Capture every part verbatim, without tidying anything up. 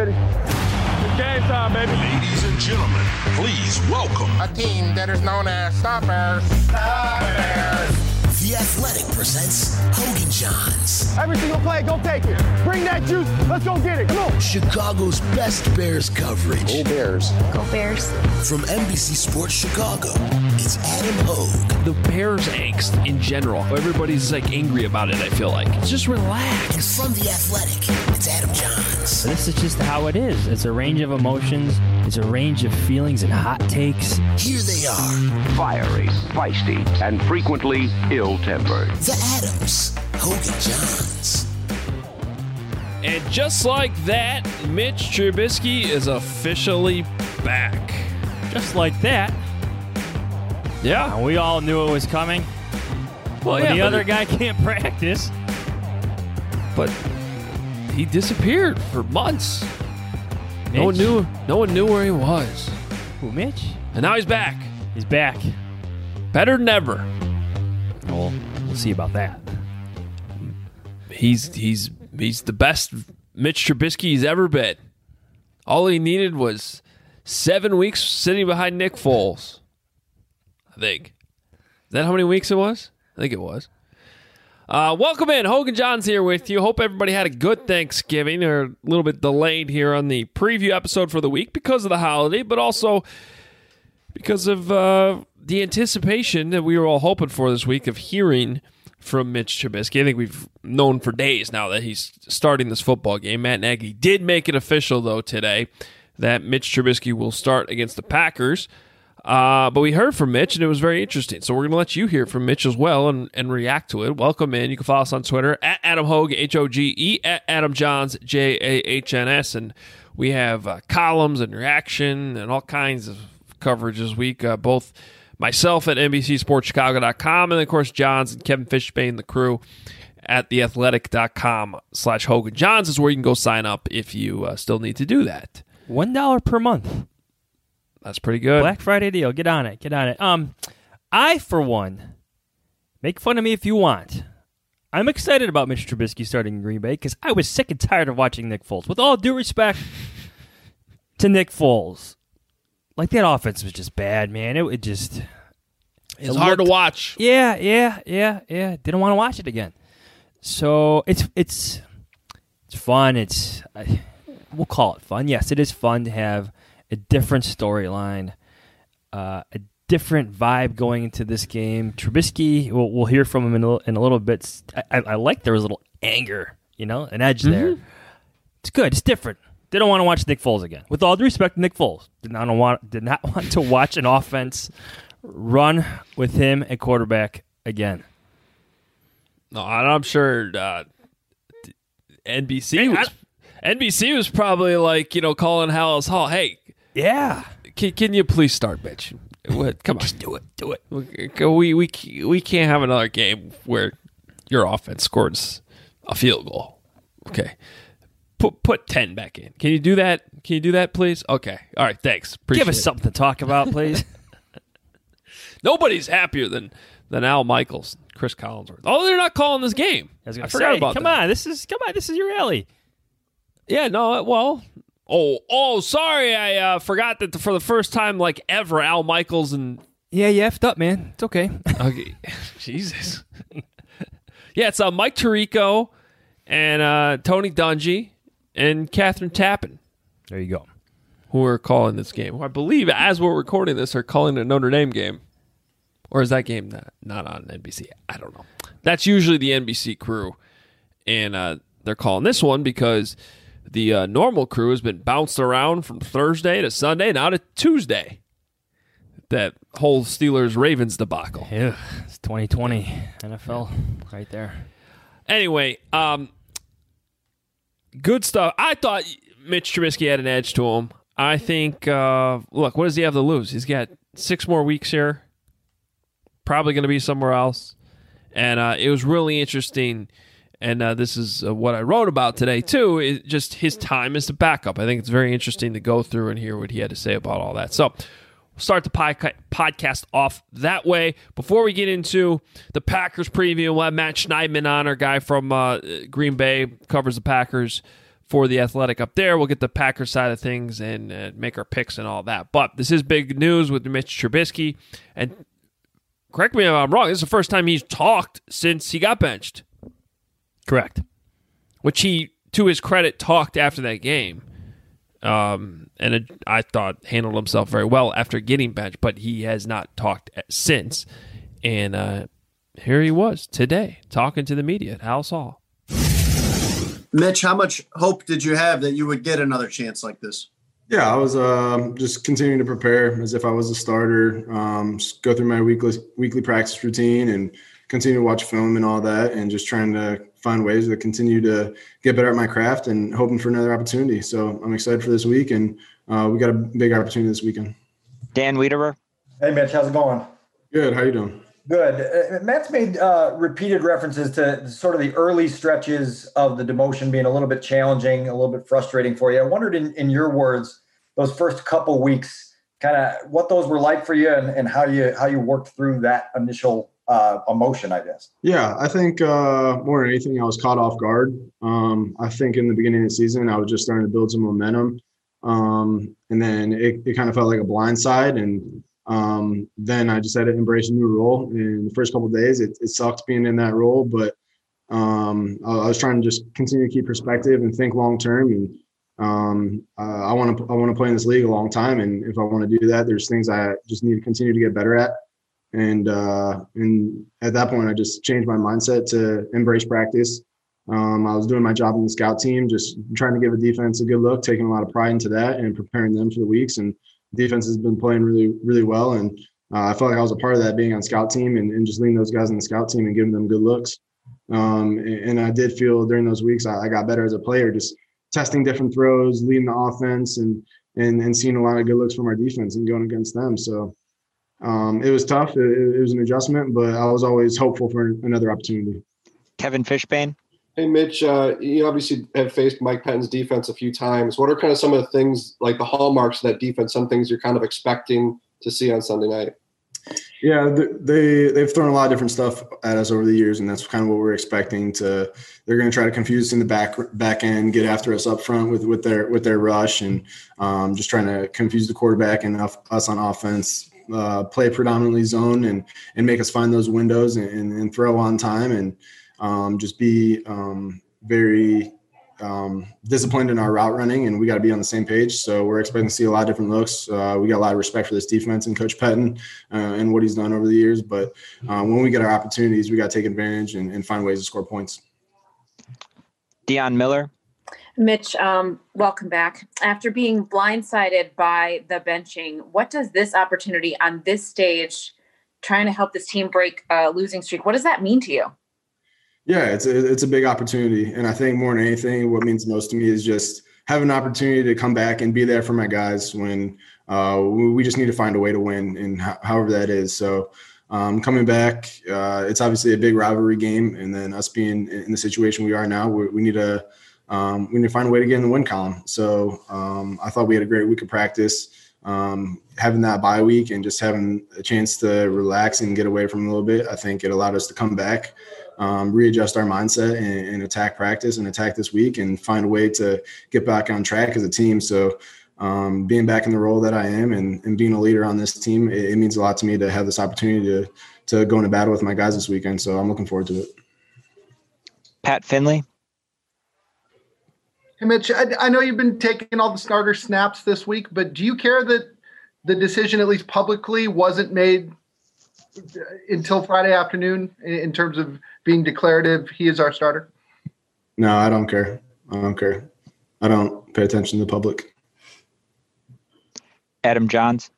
ready. It's game time, baby. Ladies and gentlemen, please welcome a team that is known as Stoppers. Stoppers. The Athletic presents Hogan Johns. Every single play, go take it. Bring that juice. Let's go get it. Come on. Chicago's best Bears coverage. Go Bears. Go Bears. From N B C Sports Chicago, it's Adam Hogue. The Bears angst in general. Everybody's like angry about it, I feel like. Just relax. And from The Athletic, it's Adam Johns. This is just how it is. It's a range of emotions. It's a range of feelings and hot takes. Here they are. Fiery, feisty, and frequently ill-tempered. The Adams. Hogan Johns. And just like that, Mitch Trubisky is officially back. Just like that. Yeah. Uh, we all knew it was coming. Well, yeah, the other it, guy can't practice. But he disappeared for months. Mitch? No one knew. No one knew where he was. Who, Mitch? And now he's back. He's back. Better than ever. Well, we'll see about that. He's he's he's the best Mitch Trubisky he's ever been. All he needed was seven weeks sitting behind Nick Foles. I think. Is that how many weeks it was? I think it was. Uh, welcome in. Hogan Johns here with you. Hope everybody had a good Thanksgiving. They're a little bit delayed here on the preview episode for the week because of the holiday, but also because of uh, the anticipation that we were all hoping for this week of hearing from Mitch Trubisky. I think we've known for days now that he's starting this football game. Matt Nagy did make it official, though, today that Mitch Trubisky will start against the Packers. Uh, but we heard from Mitch, and it was very interesting. So we're going to let you hear from Mitch as well and, and react to it. Welcome in. You can follow us on Twitter, at Adam Hogue, H O G E, at Adam Johns, J A H N S. And we have uh, columns and reaction and all kinds of coverage this week, uh, both myself at N B C Sports Chicago dot com and, of course, Johns and Kevin Fishbane, the crew, at the athletic dot com slash Hogan Johns is where you can go sign up if you uh, still need to do that. one dollar per month. That's pretty good. Black Friday deal. Get on it. Get on it. Um, I, for one, make fun of me if you want. I'm excited about Mitch Trubisky starting in Green Bay because I was sick and tired of watching Nick Foles. With all due respect to Nick Foles, like that offense was just bad, man. It, it just it's it hard looked, to watch. Yeah, yeah, yeah, yeah. Didn't want to watch it again. So it's it's it's fun. It's I, we'll call it fun. Yes, it is fun to have a different storyline, uh, a different vibe going into this game. Trubisky, we'll, we'll hear from him in a, in a little bit. I, I, I like there was a little anger, you know, an edge mm-hmm. there. It's good. It's different. Didn't want to watch Nick Foles again. With all due respect to Nick Foles, did not want did not want to watch an offense run with him at quarterback again. No, I'm sure uh, N B C hey, was I, N B C was probably like, you know, calling Hallis Hall. Hey, yeah, can, can you please start, bitch? What? Come on, just do it, do it. We we we can't have another game where your offense scores a field goal. Okay. Put put ten back in. Can you do that? Can you do that, please? Okay. All right. Thanks. Appreciate Give us it. something to talk about, please. Nobody's happier than than Al Michaels, Chris Collinsworth. Oh, they're not calling this game. I, was gonna I forgot say, about come that. on, this is come on, this is your alley. Yeah. No. Well. Oh. Oh. Sorry. I uh, forgot that for the first time, like ever, Al Michaels and yeah, you effed up, man. It's okay. Okay. Jesus. Yeah. It's uh, Mike Tirico and uh, Tony Dungy. And Catherine Tappan. There you go. Who are calling this game. Who I believe, as we're recording this, are calling a Notre Dame game. Or is that game not, not on N B C? I don't know. That's usually the N B C crew. And uh, they're calling this one because the uh, normal crew has been bounced around from Thursday to Sunday, now to Tuesday. That whole Steelers-Ravens debacle. Yeah, it's twenty twenty N F L right there. Anyway, um... good stuff. I thought Mitch Trubisky had an edge to him. I think, uh, look, what does he have to lose? He's got six more weeks here. Probably going to be somewhere else. And uh, it was really interesting. And uh, this is uh, what I wrote about today, too. Is just his time as the backup. I think it's very interesting to go through and hear what he had to say about all that. So we'll start the pod- podcast off that way. Before we get into the Packers preview, we'll have Matt Schneidman on, our guy from uh, Green Bay, covers the Packers for The Athletic up there. We'll get the Packers side of things and uh, make our picks and all that. But this is big news with Mitch Trubisky. And correct me if I'm wrong, this is the first time he's talked since he got benched. Correct. Which he, to his credit, talked after that game. Um, and it, I thought handled himself very well after getting benched, but he has not talked since. And uh, here he was today talking to the media at Halas Hall. Mitch, how much hope did you have that you would get another chance like this? Yeah, I was uh, just continuing to prepare as if I was a starter, um, just go through my weekly weekly practice routine and continue to watch film and all that, and just trying to find ways to continue to get better at my craft and hoping for another opportunity. So I'm excited for this week, and uh, we got a big opportunity this weekend. Dan Wiederer. Hey, Mitch, how's it going? Good. How you doing? Good. Uh, Matt's made uh, repeated references to sort of the early stretches of the demotion being a little bit challenging, a little bit frustrating for you. I wondered, in, in your words, those first couple weeks, kind of what those were like for you, and, and how you how you worked through that initial uh, emotion, I guess. Yeah, I think uh, more than anything, I was caught off guard. Um, I think in the beginning of the season, I was just starting to build some momentum, um, and then it, it kind of felt like a blindside, and Um, then I just had to embrace a new role. In the first couple of days, it, it sucked being in that role, but um, I, I was trying to just continue to keep perspective and think long term. And um, uh, I want to I want to play in this league a long time, and if I want to do that, there's things I just need to continue to get better at. And uh, and at that point, I just changed my mindset to embrace practice. Um, I was doing my job in the scout team, just trying to give a defense a good look, taking a lot of pride into that, and preparing them for the weeks. And defense has been playing really, really well. And uh, I felt like I was a part of that, being on scout team and, and just leading those guys on the scout team and giving them good looks. Um, and, and I did feel during those weeks, I, I got better as a player, just testing different throws, leading the offense, and, and, and seeing a lot of good looks from our defense and going against them. So um, it was tough. It, it was an adjustment, but I was always hopeful for another opportunity. Kevin Fishbane. Hey, Mitch, uh, you obviously have faced Mike Pettine's defense a few times. What are kind of some of the things, like the hallmarks of that defense, some things you're kind of expecting to see on Sunday night? Yeah, they, they've thrown a lot of different stuff at us over the years, and that's kind of what we're expecting. To They're going to try to confuse us in the back back end, get after us up front with, with, their, with their rush, and um, just trying to confuse the quarterback and us on offense, uh, play predominantly zone and, and make us find those windows and, and, and throw on time, and Um, just be um, very um, disciplined in our route running, and we got to be on the same page. So we're expecting to see a lot of different looks. Uh, we got a lot of respect for this defense and Coach Pettine uh, and what he's done over the years. But uh, when we get our opportunities, we got to take advantage and, and find ways to score points. Deion Miller. Mitch, um, welcome back. After being blindsided by the benching, what does this opportunity on this stage, trying to help this team break a losing streak, what does that mean to you? Yeah, it's a, it's a big opportunity. And I think more than anything, what means most to me is just having an opportunity to come back and be there for my guys when uh, we just need to find a way to win, and ho- however that is. So um, coming back, uh, it's obviously a big rivalry game. And then us being in the situation we are now, we, we need to um, we need to find a way to get in the win column. So um, I thought we had a great week of practice. Um, having that bye week and just having a chance to relax and get away from a little bit, I think it allowed us to come back, um, readjust our mindset and, and attack practice and attack this week and find a way to get back on track as a team. So um, being back in the role that I am and, and being a leader on this team, it, it means a lot to me to have this opportunity to, to go into battle with my guys this weekend. So I'm looking forward to it. Pat Finley. Hey, Mitch, I, I know you've been taking all the starter snaps this week, but do you care that the decision, at least publicly, wasn't made until Friday afternoon in, in terms of being declarative? He is our starter. No, I don't care. I don't care. I don't pay attention to the public. Adam Johns.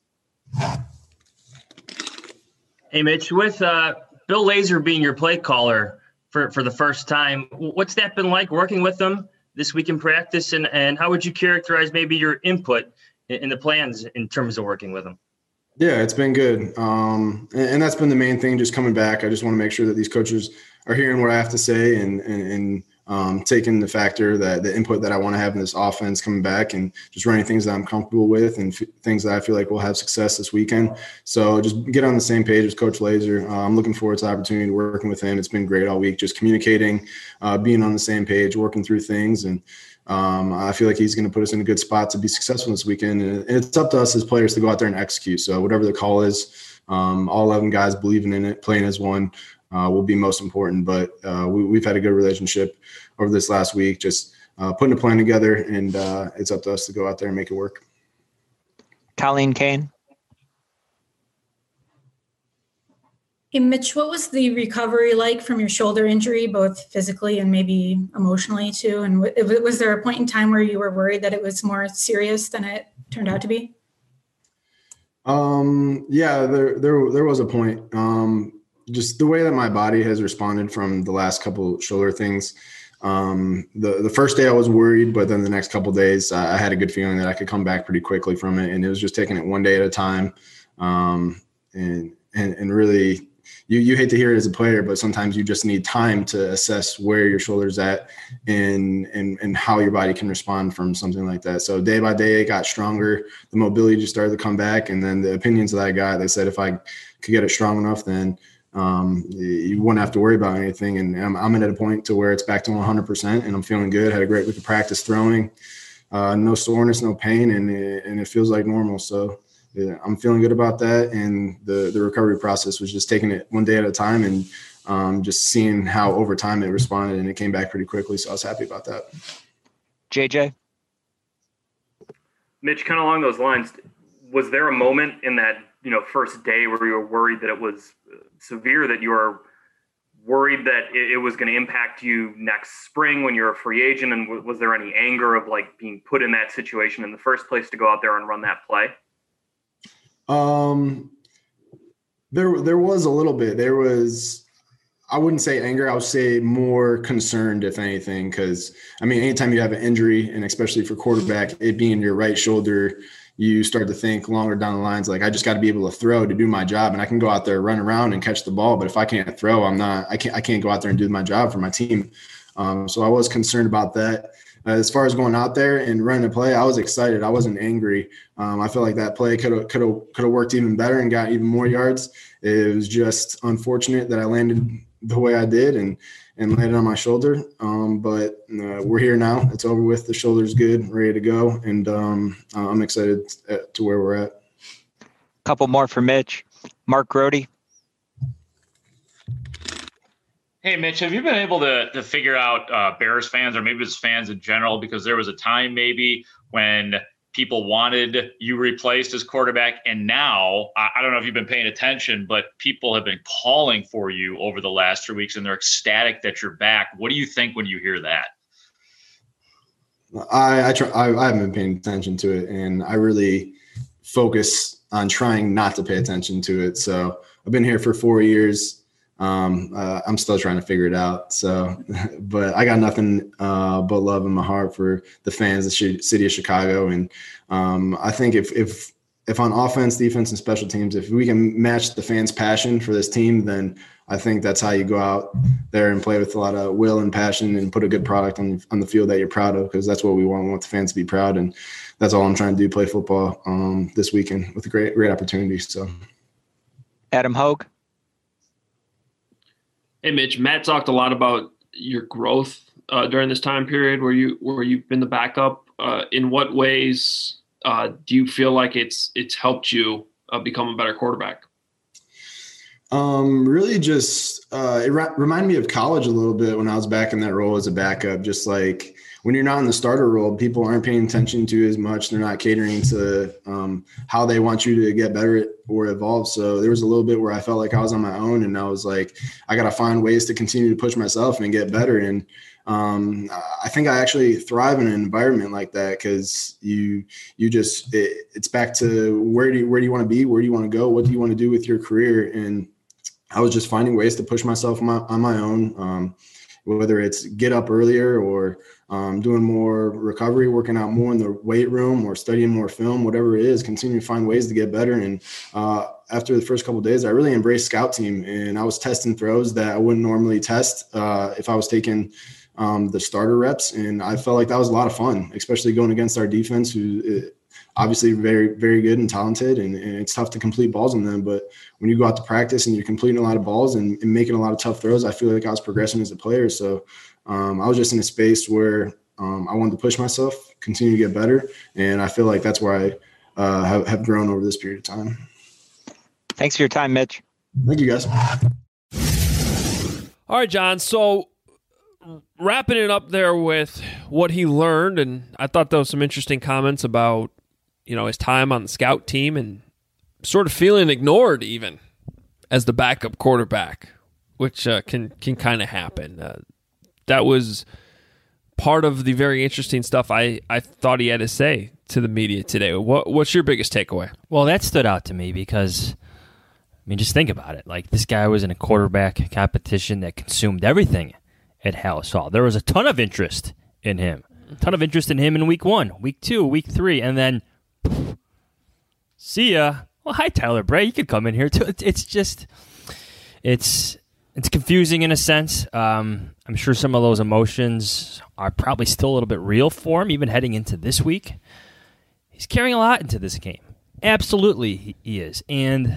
Hey, Mitch, with uh, Bill Lazor being your play caller for, for the first time, what's that been like working with him this week in practice, and, and how would you characterize maybe your input in, in the plans in terms of working with him? Yeah, it's been good. Um, and, and that's been the main thing, just coming back. I just want to make sure that these coaches are hearing what I have to say and, and, and um, taking the factor that the input that I want to have in this offense coming back and just running things that I'm comfortable with and f- things that I feel like will have success this weekend. So just get on the same page with Coach Lazor. Uh, I'm looking forward to the opportunity to working with him. It's been great all week, just communicating, uh, being on the same page, working through things. And um, I feel like he's going to put us in a good spot to be successful this weekend. And it's up to us as players to go out there and execute. So whatever the call is, um, all eleven guys believing in it, playing as one uh, will be most important. But uh, we, we've had a good relationship over this last week, just uh, putting a plan together, and uh, it's up to us to go out there and make it work. Colleen Kane. Hey, Mitch, what was the recovery like from your shoulder injury, both physically and maybe emotionally too? And w- was there a point in time where you were worried that it was more serious than it turned out to be? Um, yeah, there, there, there was a point. Um, just the way that my body has responded from the last couple shoulder things. Um, the, the first day I was worried, but then the next couple of days I had a good feeling that I could come back pretty quickly from it. And it was just taking it one day at a time. Um, and, and, and really, You you hate to hear it as a player, but sometimes you just need time to assess where your shoulder's at and and and how your body can respond from something like that. So day by day, it got stronger. The mobility just started to come back, and then the opinions that I got, they said if I could get it strong enough, then um, you wouldn't have to worry about anything. And I'm I'm at a point to where it's back to one hundred percent, and I'm feeling good. Had a great week of practice throwing, uh, no soreness, no pain, and it, and it feels like normal. So. Yeah, I'm feeling good about that, and the the recovery process was just taking it one day at a time, and um, just seeing how over time it responded, and it came back pretty quickly. So I was happy about that. J J, Mitch, kind of along those lines, was there a moment in that you know first day where you were worried that it was severe, that you were worried that it, it was going to impact you next spring when you're a free agent, and w- was there any anger of like being put in that situation in the first place to go out there and run that play? Um, there, there was a little bit, there was, I wouldn't say anger. I would say more concerned, if anything, because I mean, anytime you have an injury, and especially for quarterback, it being your right shoulder, you start to think longer down the lines, like I just got to be able to throw to do my job, and I can go out there, run around and catch the ball. But if I can't throw, I'm not, I can't, I can't go out there and do my job for my team. Um, so I was concerned about that. Uh, as far as going out there and running a play, I was excited. I wasn't angry. Um, I feel like that play could have could have could have worked even better and got even more yards. It was just unfortunate that I landed the way I did and and landed on my shoulder. Um, but uh, we're here now. It's over with. The shoulder's good, ready to go, and um, I'm excited to where we're at. Couple more for Mitch. Mark Grody. Hey, Mitch, have you been able to to figure out uh, Bears fans, or maybe just fans in general, because there was a time maybe when people wanted you replaced as quarterback, and now, I, I don't know if you've been paying attention, but people have been calling for you over the last three weeks, and they're ecstatic that you're back. What do you think when you hear that? I I, try, I I haven't been paying attention to it, and I really focus on trying not to pay attention to it. So I've been here for four years. Um, uh, I'm still trying to figure it out. So, but I got nothing uh, but love in my heart for the fans, the sh- city of Chicago. And um, I think if, if, if on offense, defense, and special teams, if we can match the fans' passion for this team, then I think that's how you go out there and play with a lot of will and passion and put a good product on, on the field that you're proud of, because that's what we want. We want the fans to be proud. And that's all I'm trying to do, play football um, this weekend with a great, great opportunity. So Adam Hogue. Hey, Mitch, Matt talked a lot about your growth uh, during this time period where you where you've been the backup. Uh, in what ways uh, do you feel like it's it's helped you uh, become a better quarterback? Um, really, just uh, it re- reminded me of college a little bit when I was back in that role as a backup. Just like when you're not in the starter role, people aren't paying attention to you as much. They're not catering to um, how they want you to get better or evolve. So there was a little bit where I felt like I was on my own, and I was like, I got to find ways to continue to push myself and get better. And um, I think I actually thrive in an environment like that, because you you just it, it's back to where do you, where do you want to be? Where do you want to go? What do you want to do with your career? And I was just finding ways to push myself on my, on my own, um, whether it's get up earlier or um, doing more recovery, working out more in the weight room or studying more film, whatever it is, continue to find ways to get better. And uh, after the first couple of days, I really embraced scout team, and I was testing throws that I wouldn't normally test uh, if I was taking um, the starter reps. And I felt like that was a lot of fun, especially going against our defense, who it, obviously very, very good and talented, and, and it's tough to complete balls on them. But when you go out to practice and you're completing a lot of balls and, and making a lot of tough throws, I feel like I was progressing as a player. So um, I was just in a space where Um, I wanted to push myself, continue to get better, and I feel like that's where I uh, have, have grown over this period of time. Thanks for your time, Mitch. Thank you, guys. All right, John. So wrapping it up there with what he learned, and I thought there was some interesting comments about, you know, his time on the scout team and sort of feeling ignored even as the backup quarterback, which uh, can can kind of happen. Uh, that was part of the very interesting stuff I, I thought he had to say to the media today. What What's your biggest takeaway? Well, that stood out to me because, I mean, just think about it. Like, this guy was in a quarterback competition that consumed everything at Halas Hall. There was a ton of interest in him. A ton of interest in him in week one, week two, week three, and then poof, see ya. Well, hi, Tyler Bray. You could come in here, too. It's just, it's it's confusing in a sense. Um, I'm sure some of those emotions are probably still a little bit real for him, even heading into this week. He's carrying a lot into this game. Absolutely, he, he is. And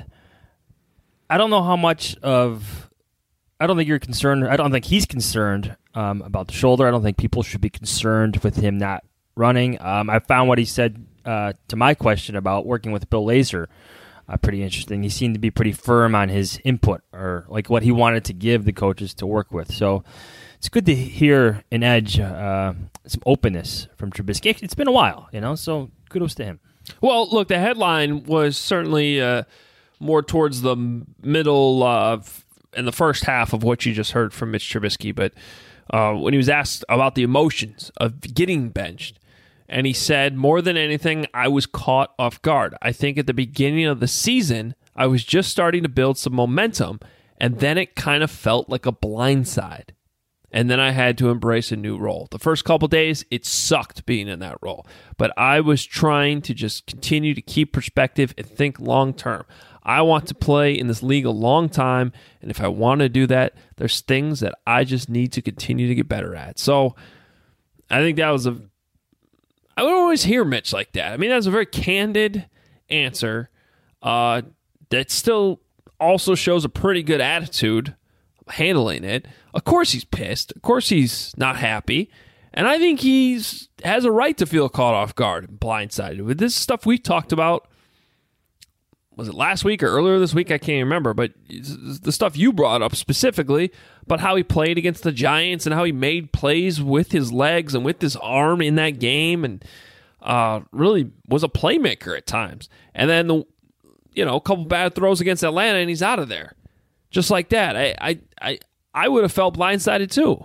I don't know how much of, I don't think you're concerned, I don't think he's concerned um, about the shoulder. I don't think people should be concerned with him not running. Um, I found what he said uh, to my question about working with Bill Lazor uh, pretty interesting. He seemed to be pretty firm on his input, or like what he wanted to give the coaches to work with. So it's good to hear an edge, uh, some openness from Trubisky. It's been a while, you know, so kudos to him. Well, look, the headline was certainly uh, more towards the middle of in the first half of what you just heard from Mitch Trubisky, but uh, when he was asked about the emotions of getting benched, and he said, more than anything, I was caught off guard. I think at the beginning of the season, I was just starting to build some momentum, and then it kind of felt like a blindside. And then I had to embrace a new role. The first couple days, it sucked being in that role. But I was trying to just continue to keep perspective and think long term. I want to play in this league a long time, and if I want to do that, there's things that I just need to continue to get better at. So I think that was a... I would always hear Mitch like that. I mean, that's a very candid answer uh, that still also shows a pretty good attitude handling it. Of course he's pissed. Of course he's not happy. And I think he's has a right to feel caught off guard and blindsided. With this stuff we talked about, was it last week or earlier this week? I can't remember. But the stuff you brought up specifically about how he played against the Giants and how he made plays with his legs and with his arm in that game, and uh, really was a playmaker at times. And then, the, you know, a couple bad throws against Atlanta, and he's out of there. Just like that. I I I, I would have felt blindsided too.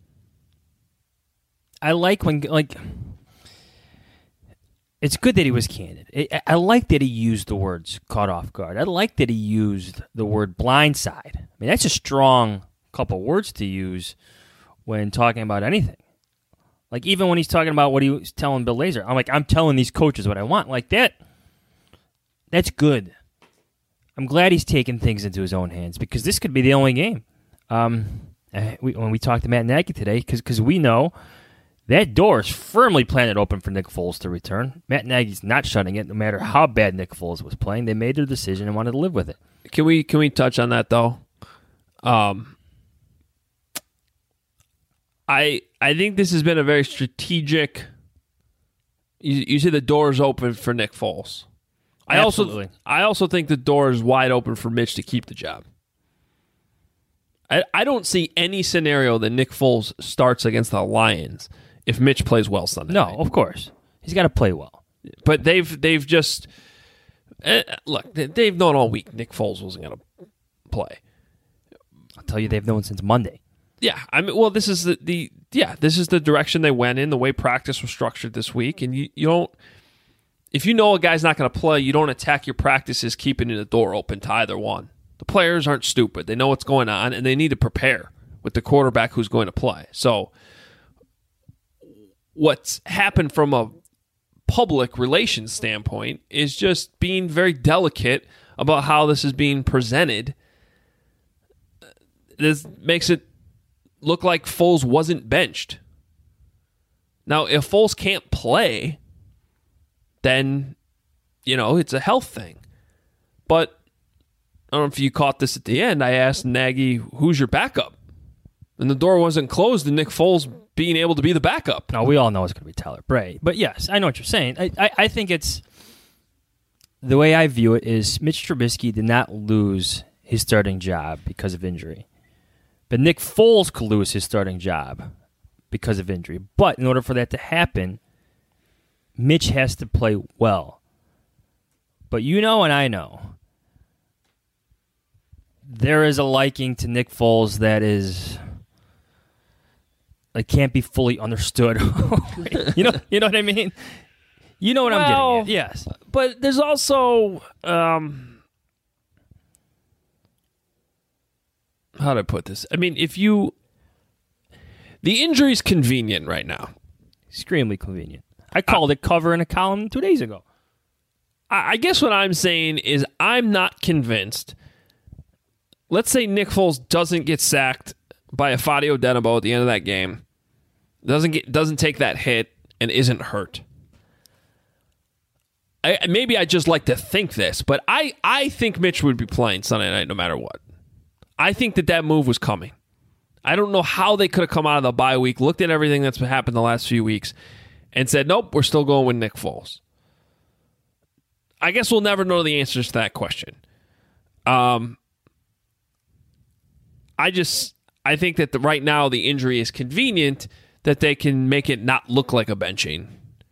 I like when, like, it's good that he was candid. I, I like that he used the words caught off guard. I like that he used the word blindside. I mean, that's a strong couple words to use when talking about anything. Like, even when he's talking about what he was telling Bill Lazor, I'm like, I'm telling these coaches what I want. Like, that, that's good. I'm glad he's taking things into his own hands, because this could be the only game. Um, we, when we talked to Matt Nagy today, because we know that door is firmly planted open for Nick Foles to return. Matt Nagy's not shutting it, no matter how bad Nick Foles was playing. They made their decision and wanted to live with it. Can we can we touch on that though? Um, I I think this has been a very strategic. You, you see, the door is open for Nick Foles. I Absolutely. also I also think the door is wide open for Mitch to keep the job. I I don't see any scenario that Nick Foles starts against the Lions if Mitch plays well Sunday. No, night. of course he's got to play well. But they've they've just uh, look. They've known all week Nick Foles wasn't going to play. I'll tell you, they've known since Monday. Yeah, I mean, well, this is the, the yeah, this is the direction they went in. The way practice was structured this week, and you you don't. If you know a guy's not going to play, you don't attack your practices keeping the door open to either one. The players aren't stupid. They know what's going on, and they need to prepare with the quarterback who's going to play. So what's happened from a public relations standpoint is just being very delicate about how this is being presented. This makes it look like Foles wasn't benched. Now, if Foles can't play, then, you know, it's a health thing. But I don't know if you caught this at the end. I asked Nagy, who's your backup? And the door wasn't closed to Nick Foles being able to be the backup. No, we all know it's going to be Tyler Bray. But yes, I know what you're saying. I, I, I think it's the way I view it is Mitch Trubisky did not lose his starting job because of injury. But Nick Foles could lose his starting job because of injury. But in order for that to happen, Mitch has to play well. But you know and I know, there is a liking to Nick Foles that is... Like can't be fully understood. you know, you know what I mean. You know what well, I'm getting at. Yes, but there's also um, how do I put this? I mean, if you the injury's convenient right now, extremely convenient. I called uh, it cover in a column two days ago. I, I guess what I'm saying is I'm not convinced. Let's say Nick Foles doesn't get sacked by a Fadio Denabo at the end of that game, doesn't get doesn't take that hit and isn't hurt. I, maybe I just like to think this, but I, I think Mitch would be playing Sunday night no matter what. I think that that move was coming. I don't know how they could have come out of the bye week, looked at everything that's happened the last few weeks, and said, nope, we're still going with Nick Foles. I guess we'll never know the answers to that question. Um, I just... I think that the, right now the injury is convenient that they can make it not look like a benching.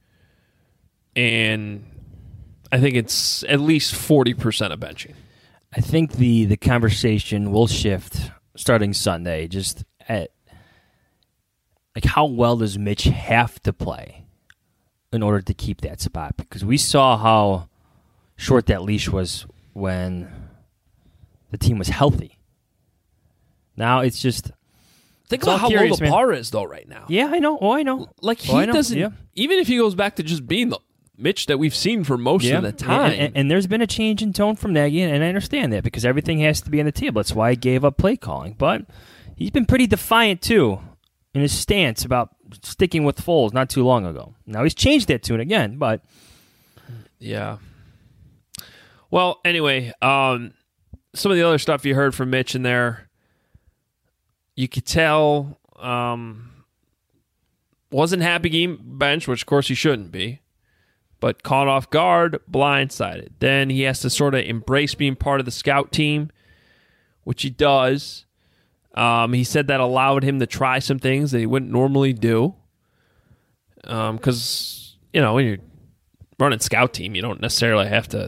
And I think it's at least forty percent a benching. I think the, the conversation will shift starting Sunday just at like how well does Mitch have to play in order to keep that spot? Because we saw how short that leash was when the team was healthy. Now it's just think it's about how curious, low the man. bar is though right now. Yeah, I know. Oh, I know. Like he oh, I know. doesn't. Yeah. Even if he goes back to just being the Mitch that we've seen for most yeah. of the time, and, and, and there's been a change in tone from Nagy, and I understand that because everything has to be on the table. That's why he gave up play calling. But he's been pretty defiant too in his stance about sticking with Foles not too long ago. Now he's changed that tune again, but yeah. Well, anyway, um, some of the other stuff you heard from Mitch in there. You could tell um, wasn't happy game bench, which of course he shouldn't be, but caught off guard, blindsided. Then he has to sort of embrace being part of the scout team, which he does. Um, he said that allowed him to try some things that he wouldn't normally do. Because, um, you know, when you're running scout team, you don't necessarily have to...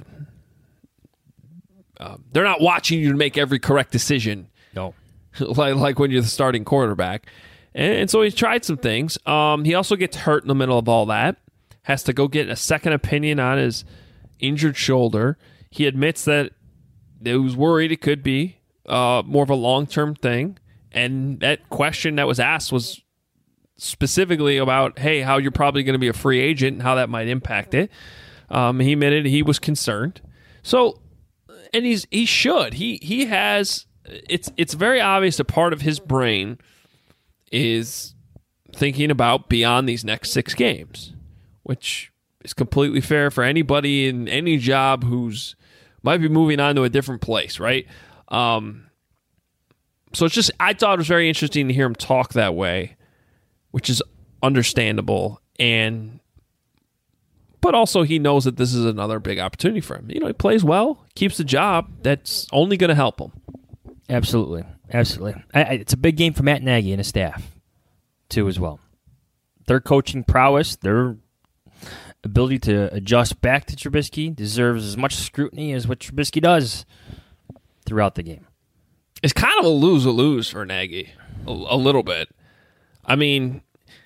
Uh, they're not watching you to make every correct decision. No. like like when you're the starting quarterback. And, and so he's tried some things. Um, he also gets hurt in the middle of all that. Has to go get a second opinion on his injured shoulder. He admits that he was worried it could be uh, more of a long-term thing. And that question that was asked was specifically about, hey, how you're probably going to be a free agent and how that might impact it. Um, he admitted he was concerned. So, and he's he should. He he has... It's it's very obvious a part of his brain is thinking about beyond these next six games, which is completely fair for anybody in any job who's might be moving on to a different place, right? Um, so it's just I thought it was very interesting to hear him talk that way, which is understandable, and but also he knows that this is another big opportunity for him. You know, he plays well, keeps the job. That's only going to help him. Absolutely. Absolutely. I, I, it's a big game for Matt Nagy and his staff, too, as well. Their coaching prowess, their ability to adjust back to Trubisky deserves as much scrutiny as what Trubisky does throughout the game. It's kind of a lose-a-lose for Nagy, a, a little bit. I mean,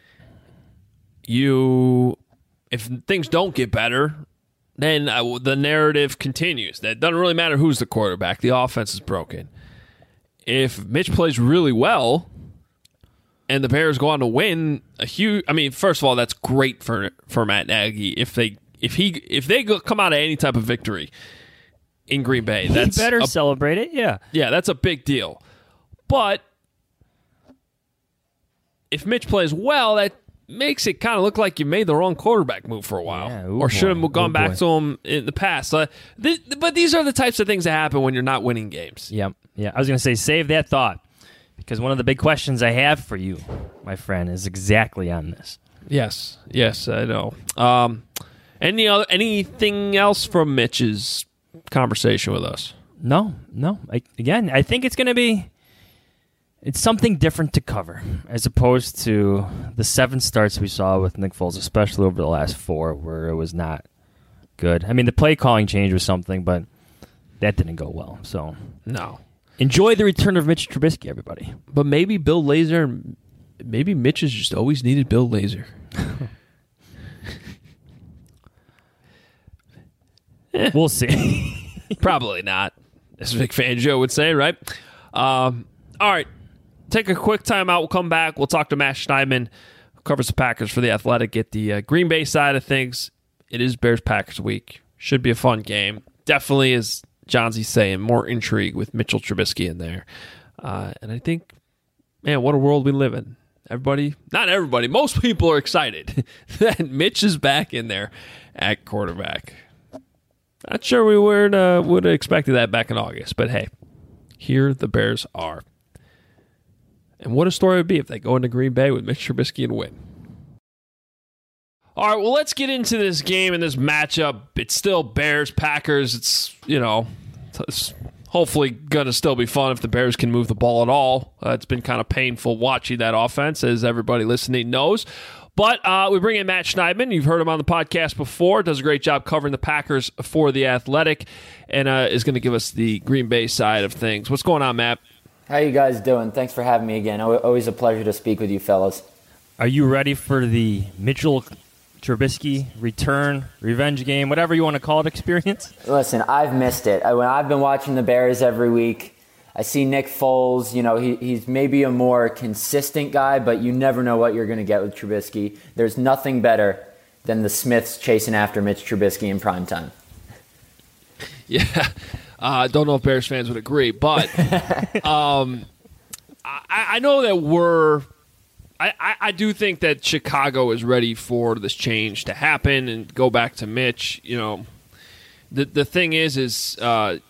you, if things don't get better, then uh, the narrative continues. That doesn't really matter who's the quarterback. The offense is broken. If Mitch plays really well and the Bears go on to win a huge, I mean, first of all, that's great for for Matt Nagy. If they if he if they go, come out of any type of victory in Green Bay, that's he better a, celebrate it. Yeah, yeah, that's a big deal. But if Mitch plays well, that makes it kind of look like you made the wrong quarterback move for a while, yeah, ooh, or should have boy. gone Ooh, back boy. to him in the past. Uh, th- but these are the types of things that happen when you're not winning games. Yep. Yeah, I was going to say, save that thought. Because one of the big questions I have for you, my friend, is exactly on this. Yes, yes, I know. Um, any other, anything else from Mitch's conversation with us? No, no. I, again, I think it's going to be it's something different to cover as opposed to the seven starts we saw with Nick Foles, especially over the last four, where it was not good. I mean, the play calling change was something, but that didn't go well. So no. Enjoy the return of Mitch Trubisky, everybody. But maybe Bill Lazor, maybe Mitch has just always needed Bill Lazor. eh. We'll see. Probably not, as Vic Fangio would say, right? Um, all right. Take a quick time out. We'll come back. We'll talk to Matt Schneidman, who covers the Packers for The Athletic, get the uh, Green Bay side of things. It is Bears-Packers week. Should be a fun game. Definitely, as John Z's saying, more intrigue with Mitchell Trubisky in there. Uh, and I think, man, what a world we live in. Everybody, not everybody, most people are excited that Mitch is back in there at quarterback. Not sure we would, uh, would have expected that back in August, but hey, here the Bears are. And what a story it would be if they go into Green Bay with Mitch Trubisky and win. All right, well, let's get into this game and this matchup. It's still Bears-Packers. It's, you know, it's hopefully going to still be fun if the Bears can move the ball at all. Uh, it's been kind of painful watching that offense, as everybody listening knows. But uh, we bring in Matt Schneidman. You've heard him on the podcast before. Does a great job covering the Packers for The Athletic, and uh, is going to give us the Green Bay side of things. What's going on, Matt? How you guys doing? Thanks for having me again. Always a pleasure to speak with you fellas. Are you ready for the Mitchell Trubisky return, revenge game, whatever you want to call it, experience? Listen, I've missed it. When I've been watching the Bears every week, I see Nick Foles. You know, he, he's maybe a more consistent guy, but you never know what you're going to get with Trubisky. There's nothing better than the Smiths chasing after Mitch Trubisky in primetime. Yeah. I uh, don't know if Bears fans would agree, but um, I, I know that we're I, – I, I do think that Chicago is ready for this change to happen and go back to Mitch. You know, the the thing is, is uh,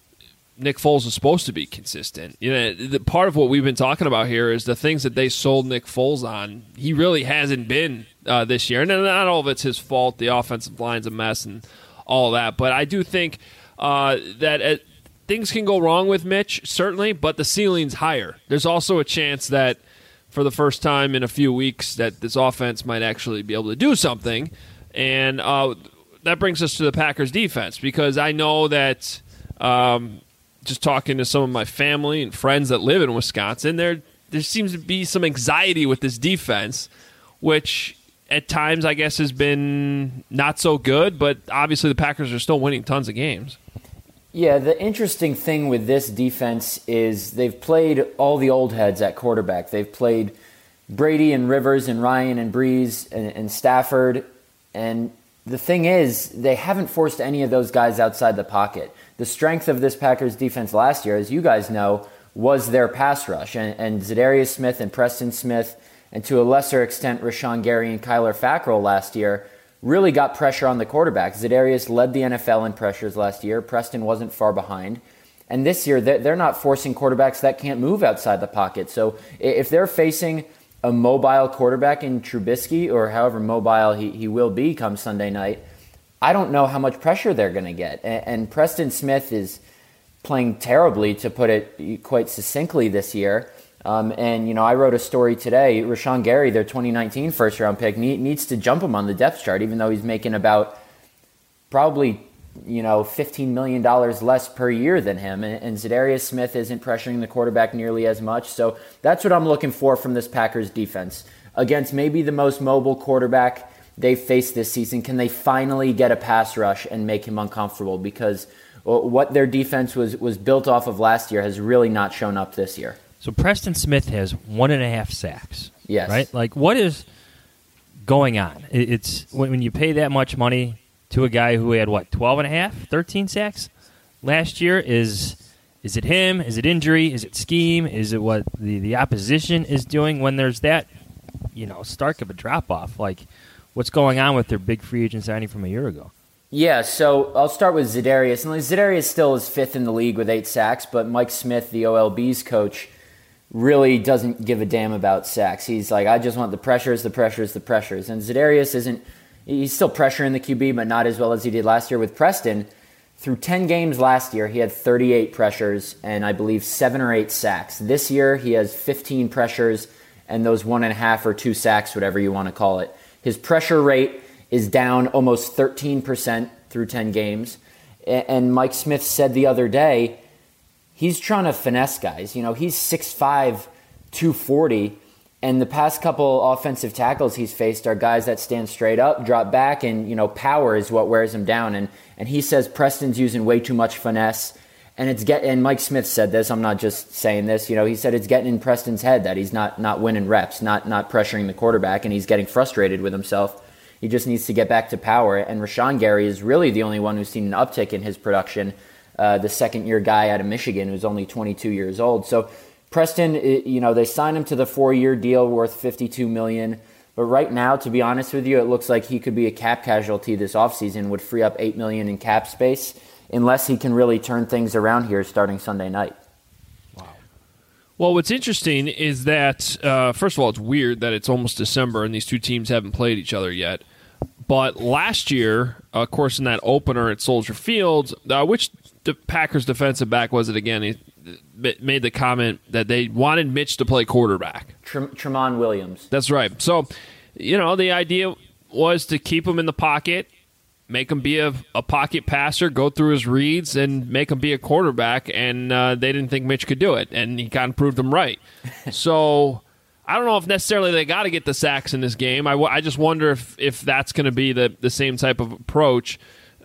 Nick Foles is supposed to be consistent. You know, the, part of what we've been talking about here is the things that they sold Nick Foles on. He really hasn't been uh, this year. And not all of it's his fault. The offensive line's a mess and all that. But I do think – Uh, that uh, things can go wrong with Mitch, certainly, but the ceiling's higher. There's also a chance that for the first time in a few weeks that this offense might actually be able to do something, and uh, that brings us to the Packers defense, because I know that um, just talking to some of my family and friends that live in Wisconsin, there there seems to be some anxiety with this defense, which at times I guess has been not so good, but obviously the Packers are still winning tons of games. Yeah, the interesting thing with this defense is they've played all the old heads at quarterback. They've played Brady and Rivers and Ryan and Breeze and, and Stafford. And the thing is, they haven't forced any of those guys outside the pocket. The strength of this Packers defense last year, as you guys know, was their pass rush. And, and Za'Darius Smith and Preston Smith, and to a lesser extent Rashawn Gary and Kyler Fackrell last year, really got pressure on the quarterback. Za'Darius led the N F L in pressures last year. Preston wasn't far behind. And this year, they're not forcing quarterbacks that can't move outside the pocket. So if they're facing a mobile quarterback in Trubisky, or however mobile he, he will be come Sunday night, I don't know how much pressure they're going to get. And, and Preston Smith is playing terribly, to put it quite succinctly, this year. Um, and, you know, I wrote a story today. Rashawn Gary, their twenty nineteen first-round pick, need, needs to jump him on the depth chart, even though he's making about probably, you know, fifteen million dollars less per year than him. And, and Za'Darius Smith isn't pressuring the quarterback nearly as much. So that's what I'm looking for from this Packers defense. Against maybe the most mobile quarterback they've faced this season, can they finally get a pass rush and make him uncomfortable? Because what their defense was, was built off of last year has really not shown up this year. So Preston Smith has one and a half sacks. Yes. Right? Like, what is going on? It's when you pay that much money to a guy who had, what, twelve and a half, thirteen sacks last year? Is is it him? Is it injury? Is it scheme? Is it what the, the opposition is doing when there's that, you know, stark of a drop-off? Like, what's going on with their big free agent signing from a year ago? Yeah, so I'll start with Za'Darius. And Za'Darius still is fifth in the league with eight sacks, but Mike Smith, the O L B's coach, really doesn't give a damn about sacks. He's like, I just want the pressures, the pressures, the pressures. And Za'Darius isn't, he's still pressuring the Q B, but not as well as he did last year with Preston. Through ten games last year, he had thirty-eight pressures and I believe seven or eight sacks. This year, he has fifteen pressures and those one and a half or two sacks, whatever you want to call it. His pressure rate is down almost thirteen percent through ten games. And Mike Smith said the other day, he's trying to finesse guys. You know, he's six five, two forty, and the past couple offensive tackles he's faced are guys that stand straight up, drop back, and, you know, power is what wears him down. And and he says Preston's using way too much finesse. And it's get and Mike Smith said this, I'm not just saying this, you know, he said it's getting in Preston's head that he's not not winning reps, not not pressuring the quarterback, and he's getting frustrated with himself. He just needs to get back to power. And Rashawn Gary is really the only one who's seen an uptick in his production. Uh, the second-year guy out of Michigan who's only twenty-two years old. So Preston, you know, they signed him to the four-year deal worth fifty-two million dollars. But right now, to be honest with you, it looks like he could be a cap casualty this offseason, would free up eight million dollars in cap space, unless he can really turn things around here starting Sunday night. Well, what's interesting is that, uh, first of all, it's weird that it's almost December and these two teams haven't played each other yet. But last year, uh, of course, in that opener at Soldier Field, uh, which the Packers defensive back was it again? He made the comment that they wanted Mitch to play quarterback. Trem- Tremont Williams. That's right. So, you know, the idea was to keep him in the pocket, make him be a, a pocket passer, go through his reads, and make him be a quarterback. And uh, they didn't think Mitch could do it, and he kind of proved them right. So I don't know if necessarily they got to get the sacks in this game. I, w- I just wonder if, if that's going to be the, the same type of approach,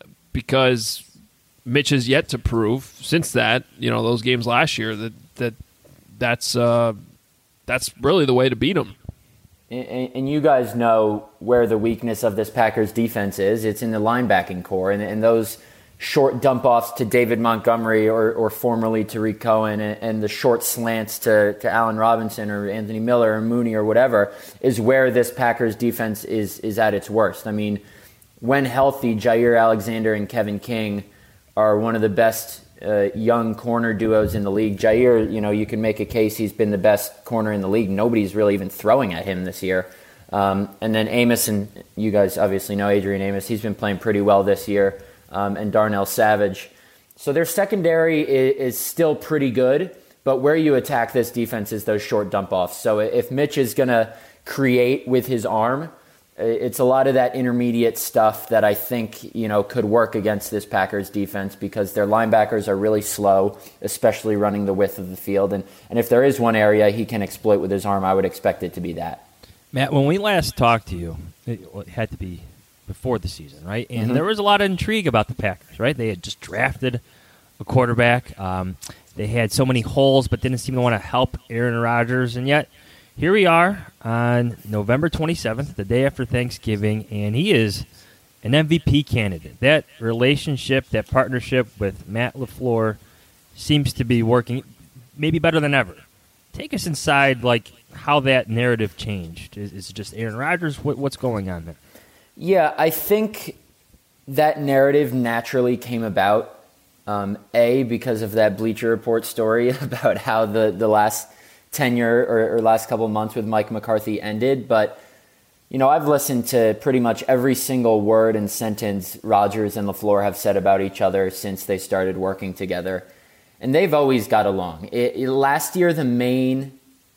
because Mitch has yet to prove since that, you know, those games last year that that that's uh, that's really the way to beat them. And, and you guys know where the weakness of this Packers defense is. It's in the linebacking core, and, and those short dump-offs to David Montgomery or, or formerly Tariq Cohen, and, and the short slants to, to Allen Robinson or Anthony Miller or Mooney or whatever is where this Packers defense is is at its worst. I mean, when healthy, Jair Alexander and Kevin King are one of the best uh, young corner duos in the league. Jair, you know, you can make a case he's been the best corner in the league. Nobody's really even throwing at him this year. Um, and then Amos, and you guys obviously know Adrian Amos, he's been playing pretty well this year, um, and Darnell Savage. So their secondary is, is still pretty good, but where you attack this defense is those short dump-offs. So if Mitch is going to create with his arm, it's a lot of that intermediate stuff that I think, you know, could work against this Packers defense, because their linebackers are really slow, especially running the width of the field. And, and if there is one area he can exploit with his arm, I would expect it to be that. Matt, when we last talked to you, it had to be before the season, right? And Mm-hmm. there was a lot of intrigue about the Packers, right? They had just drafted a quarterback. Um, they had so many holes, but didn't seem to want to help Aaron Rodgers. And yet, here we are on November twenty-seventh, the day after Thanksgiving, and he is an M V P candidate. That relationship, that partnership with Matt LaFleur seems to be working maybe better than ever. Take us inside, like, how that narrative changed. Is, is it just Aaron Rodgers? What, what's going on there? Yeah, I think that narrative naturally came about, um, A, because of that Bleacher Report story about how the, the last tenure or, or last couple of months with Mike McCarthy ended. But, you know, I've listened to pretty much every single word and sentence Rodgers and LaFleur have said about each other since they started working together. And they've always got along. It, it, last year, the main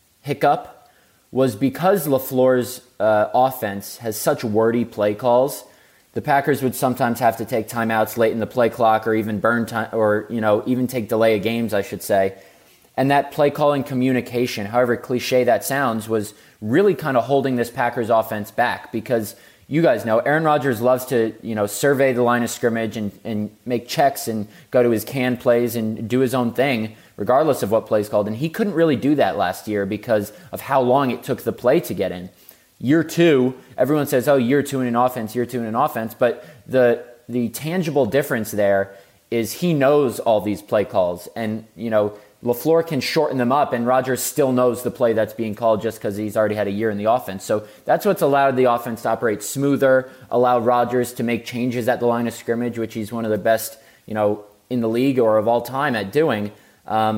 hiccup was because LaFleur's uh, offense has such wordy play calls. The Packers would sometimes have to take timeouts late in the play clock, or even burn time, or, you know, even take delay of games, I should say. And that play calling communication, however cliche that sounds, was really kind of holding this Packers offense back, because you guys know Aaron Rodgers loves to, you know, survey the line of scrimmage and, and make checks and go to his canned plays and do his own thing, regardless of what play's called. And he couldn't really do that last year because of how long it took the play to get in. Year two, everyone says, oh, year two in an offense, year two in an offense. But the the tangible difference there is he knows all these play calls. And, you know, LaFleur can shorten them up, and Rodgers still knows the play that's being called just because he's already had a year in the offense. So that's what's allowed the offense to operate smoother, allowed Rodgers to make changes at the line of scrimmage, which he's one of the best, you know, in the league or of all time at doing. Um,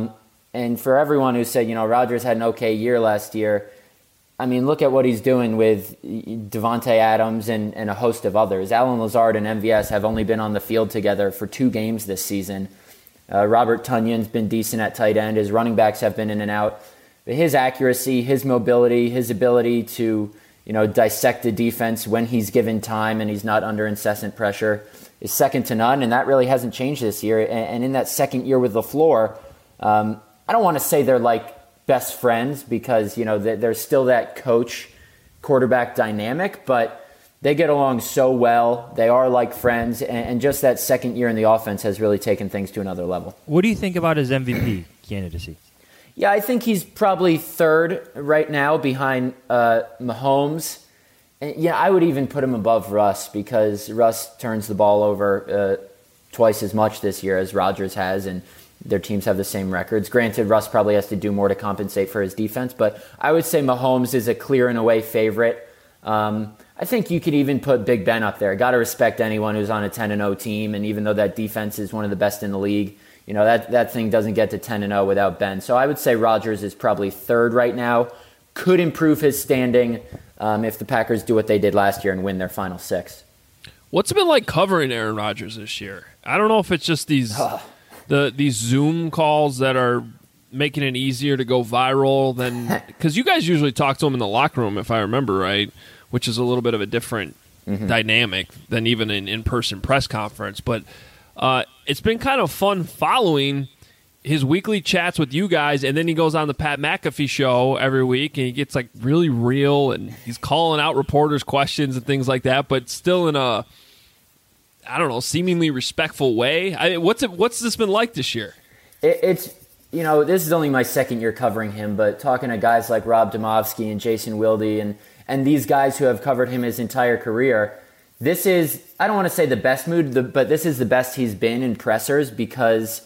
And for everyone who said, you know, Rodgers had an okay year last year, I mean, look at what he's doing with Devontae Adams and, and a host of others. Allen Lazard and M V S have only been on the field together for two games this season. Uh, Robert Tunyon's been decent at tight end. His running backs have been in and out. But his accuracy, his mobility, his ability to, you know, dissect the defense when he's given time and he's not under incessant pressure is second to none, and that really hasn't changed this year. And, and in that second year with LaFleur, um, I don't want to say they're like best friends because, you know, there's still that coach-quarterback dynamic, but they get along so well. They are like friends, and, and just that second year in the offense has really taken things to another level. What do you think about his M V P candidacy? Yeah, I think he's probably third right now behind uh, Mahomes. And yeah, I would even put him above Russ because Russ turns the ball over uh, twice as much this year as Rodgers has, and their teams have the same records. Granted, Russ probably has to do more to compensate for his defense, but I would say Mahomes is a clear and away favorite. Um, I think you could even put Big Ben up there. Got to respect anyone who's on a ten and oh team, and even though that defense is one of the best in the league, you know, that, that thing doesn't get to ten and oh without Ben. So I would say Rodgers is probably third right now. Could improve his standing um, if the Packers do what they did last year and win their final six. What's it been like covering Aaron Rodgers this year? I don't know if it's just these the these Zoom calls that are making it easier to go viral than because you guys usually talk to him in the locker room, if I remember right, which is a little bit of a different mm-hmm. dynamic than even an in-person press conference. But uh, it's been kind of fun following his weekly chats with you guys, and then he goes on the Pat McAfee show every week, and he gets like really real, and he's calling out reporters' questions and things like that, but still in a, I don't know, seemingly respectful way. I, what's it? What's this been like this year? It, it's you know, this is only my second year covering him, but talking to guys like Rob Demovsky and Jason Wilde and and these guys who have covered him his entire career, this is, I don't want to say the best mood, but this is the best he's been in pressers because,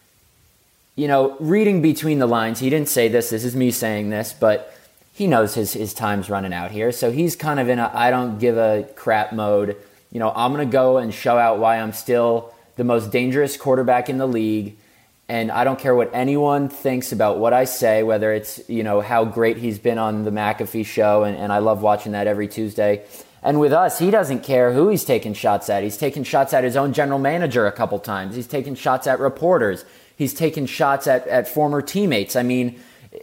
you know, reading between the lines, he didn't say this, this is me saying this, but he knows his, his time's running out here. So he's kind of in a I don't give a crap mode. You know, I'm going to go and show out why I'm still the most dangerous quarterback in the league. And I don't care what anyone thinks about what I say, whether it's, you know, how great he's been on the McAfee show. And, and I love watching that every Tuesday. And with us, he doesn't care who he's taking shots at. He's taken shots at his own general manager a couple times. He's taken shots at reporters. He's taken shots at, at former teammates. I mean,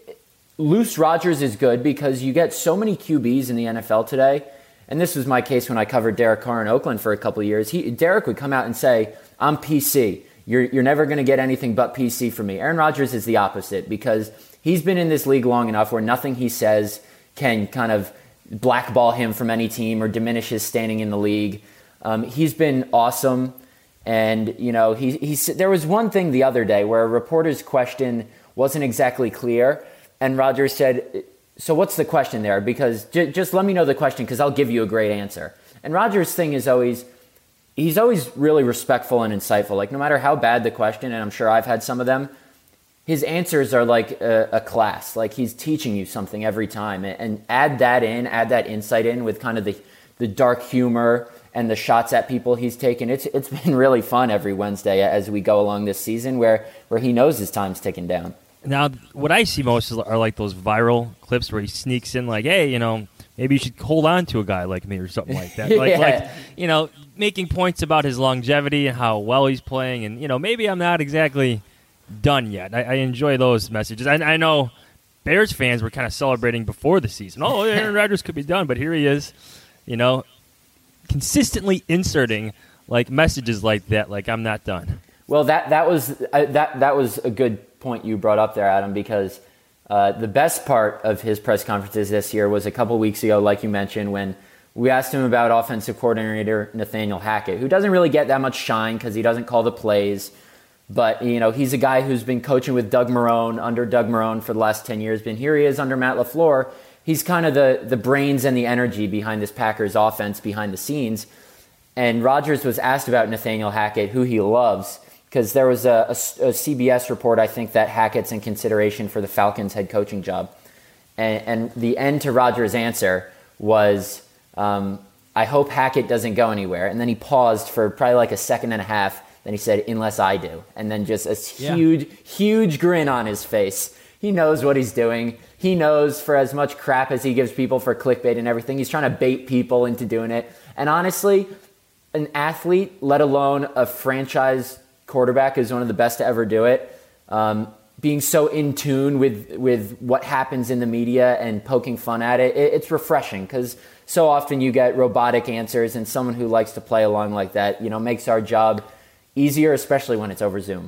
loose Rodgers is good because you get so many Q Bs in the N F L today. And this was my case when I covered Derek Carr in Oakland for a couple of years. He, Derek would come out and say, I'm P C. You're, you're never going to get anything but P C from me. Aaron Rodgers is the opposite because he's been in this league long enough where nothing he says can kind of blackball him from any team or diminish his standing in the league. Um, he's been awesome. And, you know, he, he, there was one thing the other day where a reporter's question wasn't exactly clear. And Rodgers said, so what's the question there? Because j- just let me know the question because I'll give you a great answer. And Rodgers' thing is always, he's always really respectful and insightful. Like no matter how bad the question, and I'm sure I've had some of them, his answers are like a, a class. Like he's teaching you something every time. And, and add that in, add that insight in with kind of the, the dark humor and the shots at people he's taken. It's it's been really fun every Wednesday as we go along this season where, where he knows his time's ticking down. Now, what I see most are like those viral clips where he sneaks in like, hey, you know, maybe you should hold on to a guy like me or something like that. Like, yeah. like, you know, making points about his longevity and how well he's playing. And, you know, maybe I'm not exactly done yet. I, I enjoy those messages. I, I know Bears fans were kind of celebrating before the season. Oh, Aaron Rodgers could be done, but here he is, you know, consistently inserting like messages like that, like I'm not done. Well, that that was uh, that that was a good point you brought up there, Adam, because uh, the best part of his press conferences this year was a couple weeks ago, like you mentioned, when we asked him about offensive coordinator Nathaniel Hackett, who doesn't really get that much shine because he doesn't call the plays. But, you know, he's a guy who's been coaching with Doug Marrone, under Doug Marrone for the last ten years. But here he is under Matt LaFleur. He's kind of the, the brains and the energy behind this Packers offense behind the scenes. And Rodgers was asked about Nathaniel Hackett, who he loves, because there was a, a, a C B S report, I think, that Hackett's in consideration for the Falcons head coaching job. And, and the end to Rodgers' answer was, um, I hope Hackett doesn't go anywhere. And then he paused for probably like a second and a half, Then he said, unless I do. And then just a Yeah. huge, huge grin on his face. He knows what he's doing. He knows for as much crap as he gives people for clickbait and everything, he's trying to bait people into doing it. And honestly, an athlete, let alone a franchise quarterback, is one of the best to ever do it. Um, being so in tune with, with what happens in the media and poking fun at it, it it's refreshing because so often you get robotic answers, and someone who likes to play along like that, you know, makes our job easier, especially when it's over Zoom.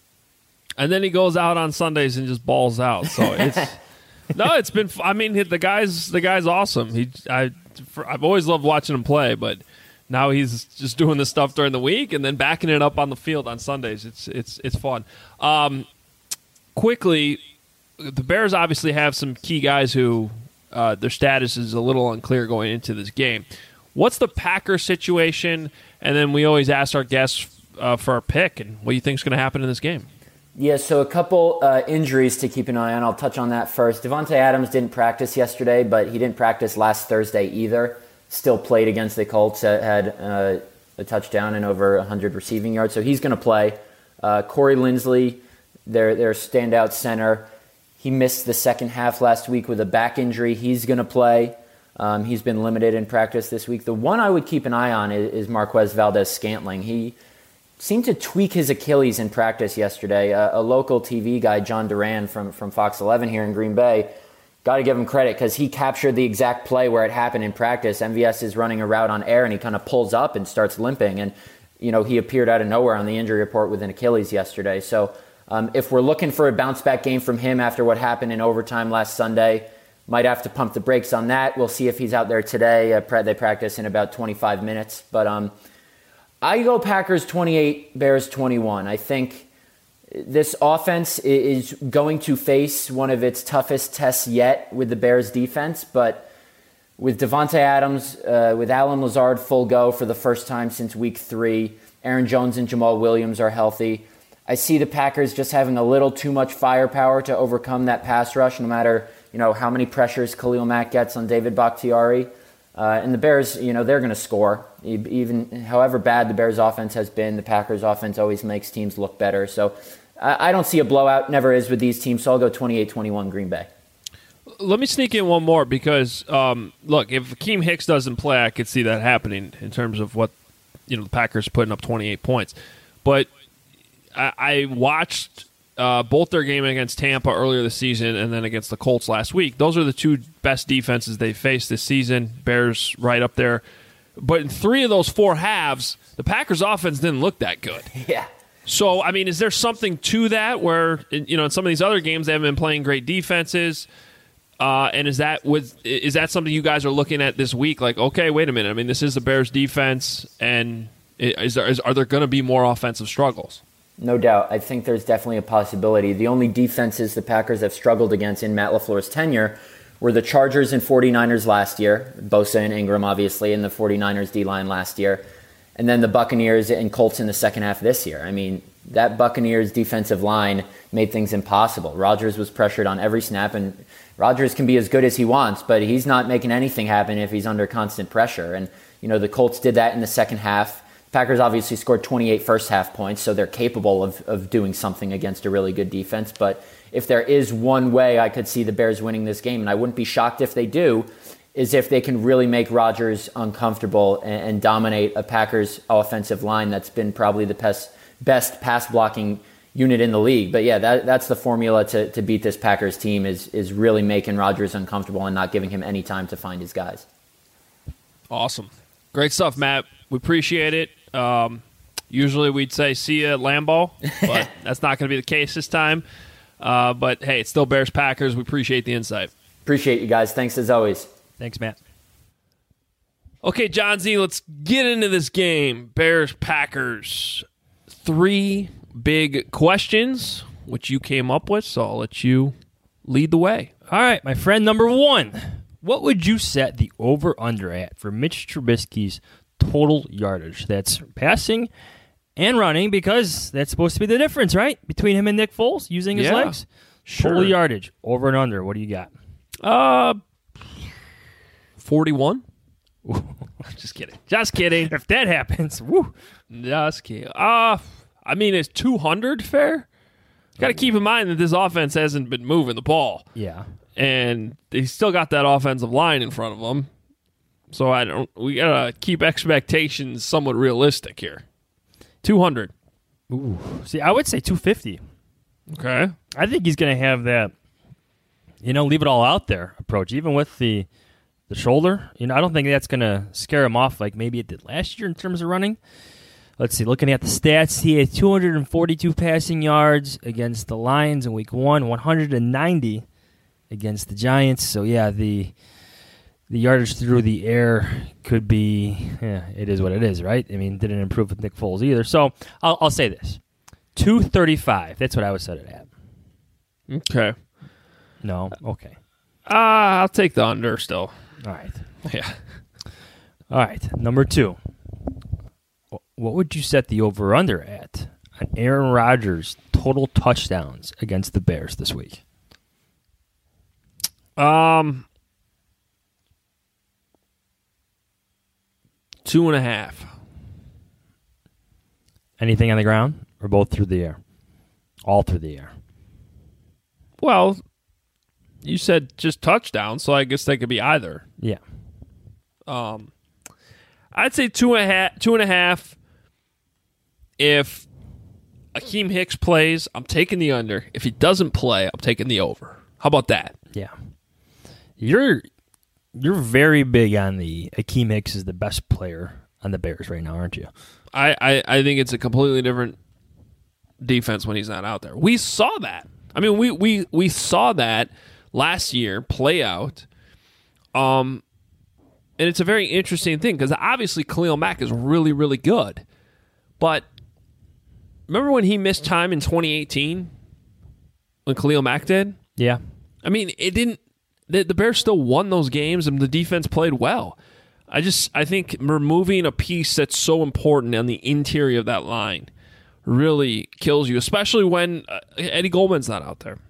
And then he goes out on Sundays and just balls out. So it's no, it's been. I mean, the guy's the guy's awesome. He, I, for, I've always loved watching him play, but now he's just doing this stuff during the week and then backing it up on the field on Sundays. It's it's it's fun. Um, quickly, the Bears obviously have some key guys who uh, their status is a little unclear going into this game. What's the Packers situation? And then we always ask our guests uh, for our pick and what do you think is going to happen in this game. Yeah, so a couple uh, injuries to keep an eye on. I'll touch on that first. Davante Adams didn't practice yesterday, but he didn't practice last Thursday either. Still played against the Colts, had uh, a touchdown and over one hundred receiving yards, so he's going to play. Uh, Corey Linsley, their, their standout center, he missed the second half last week with a back injury. He's going to play. Um, he's been limited in practice this week. The one I would keep an eye on is, is Marquez Valdez-Scantling. He seemed to tweak his Achilles in practice yesterday. Uh, a local T V guy, John Duran from, from Fox eleven here in Green Bay, got to give him credit because he captured the exact play where it happened in practice. M V S is running a route on air, and he kind of pulls up and starts limping. And, you know, he appeared out of nowhere on the injury report with an Achilles yesterday. So um, if we're looking for a bounce-back game from him after what happened in overtime last Sunday, might have to pump the brakes on that. We'll see if he's out there today. Uh, they practice in about twenty-five minutes. But um, I go Packers twenty-eight, Bears twenty-one. I think this offense is going to face one of its toughest tests yet with the Bears defense, but with Davante Adams, uh, with Allen Lazard full go for the first time since week three, Aaron Jones and Jamal Williams are healthy. I see the Packers just having a little too much firepower to overcome that pass rush, no matter, you know, how many pressures Khalil Mack gets on David Bakhtiari. Uh, and the Bears, you know, they're going to score. Even however bad the Bears offense has been, the Packers offense always makes teams look better. So I, I don't see a blowout, never is with these teams. So I'll go twenty-eight twenty-one Green Bay. Let me sneak in one more because, um, look, if Akeem Hicks doesn't play, I could see that happening in terms of what, you know, the Packers putting up twenty-eight points. But I, I watched uh, both their game against Tampa earlier this season and then against the Colts last week. Those are the two best defenses they faced this season. Bears right up there. But in three of those four halves, the Packers offense didn't look that good. Yeah. So, I mean, is there something to that where, you know, in some of these other games they haven't been playing great defenses? Uh, and is that with is that something you guys are looking at this week? Like, okay, wait a minute. I mean, this is the Bears defense, and is there is, are there going to be more offensive struggles? No doubt. I think there's definitely a possibility. The only defenses the Packers have struggled against in Matt LaFleur's tenure were the Chargers and 49ers last year, Bosa and Ingram, obviously, and the 49ers D-line last year, and then the Buccaneers and Colts in the second half of this year. I mean, that Buccaneers defensive line made things impossible. Rodgers was pressured on every snap, and Rodgers can be as good as he wants, but he's not making anything happen if he's under constant pressure. And, you know, the Colts did that in the second half. Packers obviously scored twenty-eight first half points, so they're capable of, of doing something against a really good defense. But if there is one way I could see the Bears winning this game, and I wouldn't be shocked if they do, is if they can really make Rodgers uncomfortable and, and dominate a Packers offensive line that's been probably the best, best pass blocking unit in the league. But yeah, that, that's the formula to, to beat this Packers team is, is really making Rodgers uncomfortable and not giving him any time to find his guys. Awesome. Great stuff, Matt. We appreciate it. Um, usually we'd say see you at Lambeau, but that's not going to be the case this time. Uh, but hey, it's still Bears Packers. We appreciate the insight. Appreciate you guys. Thanks as always. Thanks, Matt. Okay, John Z, let's get into this game. Bears Packers. Three big questions, which you came up with, so I'll let you lead the way. All right, my friend number one. What would you set the over-under at for Mitch Trubisky's total yardage? That's passing and running, because that's supposed to be the difference, right? Between him and Nick Foles, using his yeah, legs. Sure. Total yardage, over and under. What do you got? Uh, forty-one. Just kidding. Just kidding. If that happens, woo. Just kidding. Uh, I mean, is two hundred fair? Got to keep in mind that this offense hasn't been moving the ball. Yeah. And they still got that offensive line in front of them. So I don't. We got to keep expectations somewhat realistic here. two hundred. Ooh. See, I would say two fifty. Okay. I think he's going to have that, you know, leave it all out there approach, even with the the shoulder. You know, I don't think that's going to scare him off like maybe it did last year in terms of running. Let's see, looking at the stats, he had two hundred forty-two passing yards against the Lions in week one, one hundred ninety against the Giants. So, yeah, the the yardage through the air could be, yeah, it is what it is, right? I mean, didn't improve with Nick Foles either. So, I'll, I'll say this. two thirty-five. That's what I would set it at. Okay. No? Okay. Uh, I'll take the under still. All right. Yeah. All right. Number two. What would you set the over-under at on Aaron Rodgers' total touchdowns against the Bears this week? Um, two and a half. Anything on the ground or both through the air? All through the air. Well, you said just touchdowns, so I guess they could be either. Yeah. Um, I'd say two and a half. Two and a half. If Akeem Hicks plays, I'm taking the under. If he doesn't play, I'm taking the over. How about that? Yeah. You're you're very big on the Akeem Hicks is the best player on the Bears right now, aren't you? I, I, I think it's a completely different defense when he's not out there. We saw that. I mean, we we, we saw that last year play out. Um, and it's a very interesting thing because obviously Khalil Mack is really, really good. But remember when he missed time in twenty eighteen when Khalil Mack did? Yeah. I mean, it didn't. The, the Bears still won those games, and the defense played well. I just, I think removing a piece that's so important on the interior of that line really kills you, especially when uh, Eddie Goldman's not out there.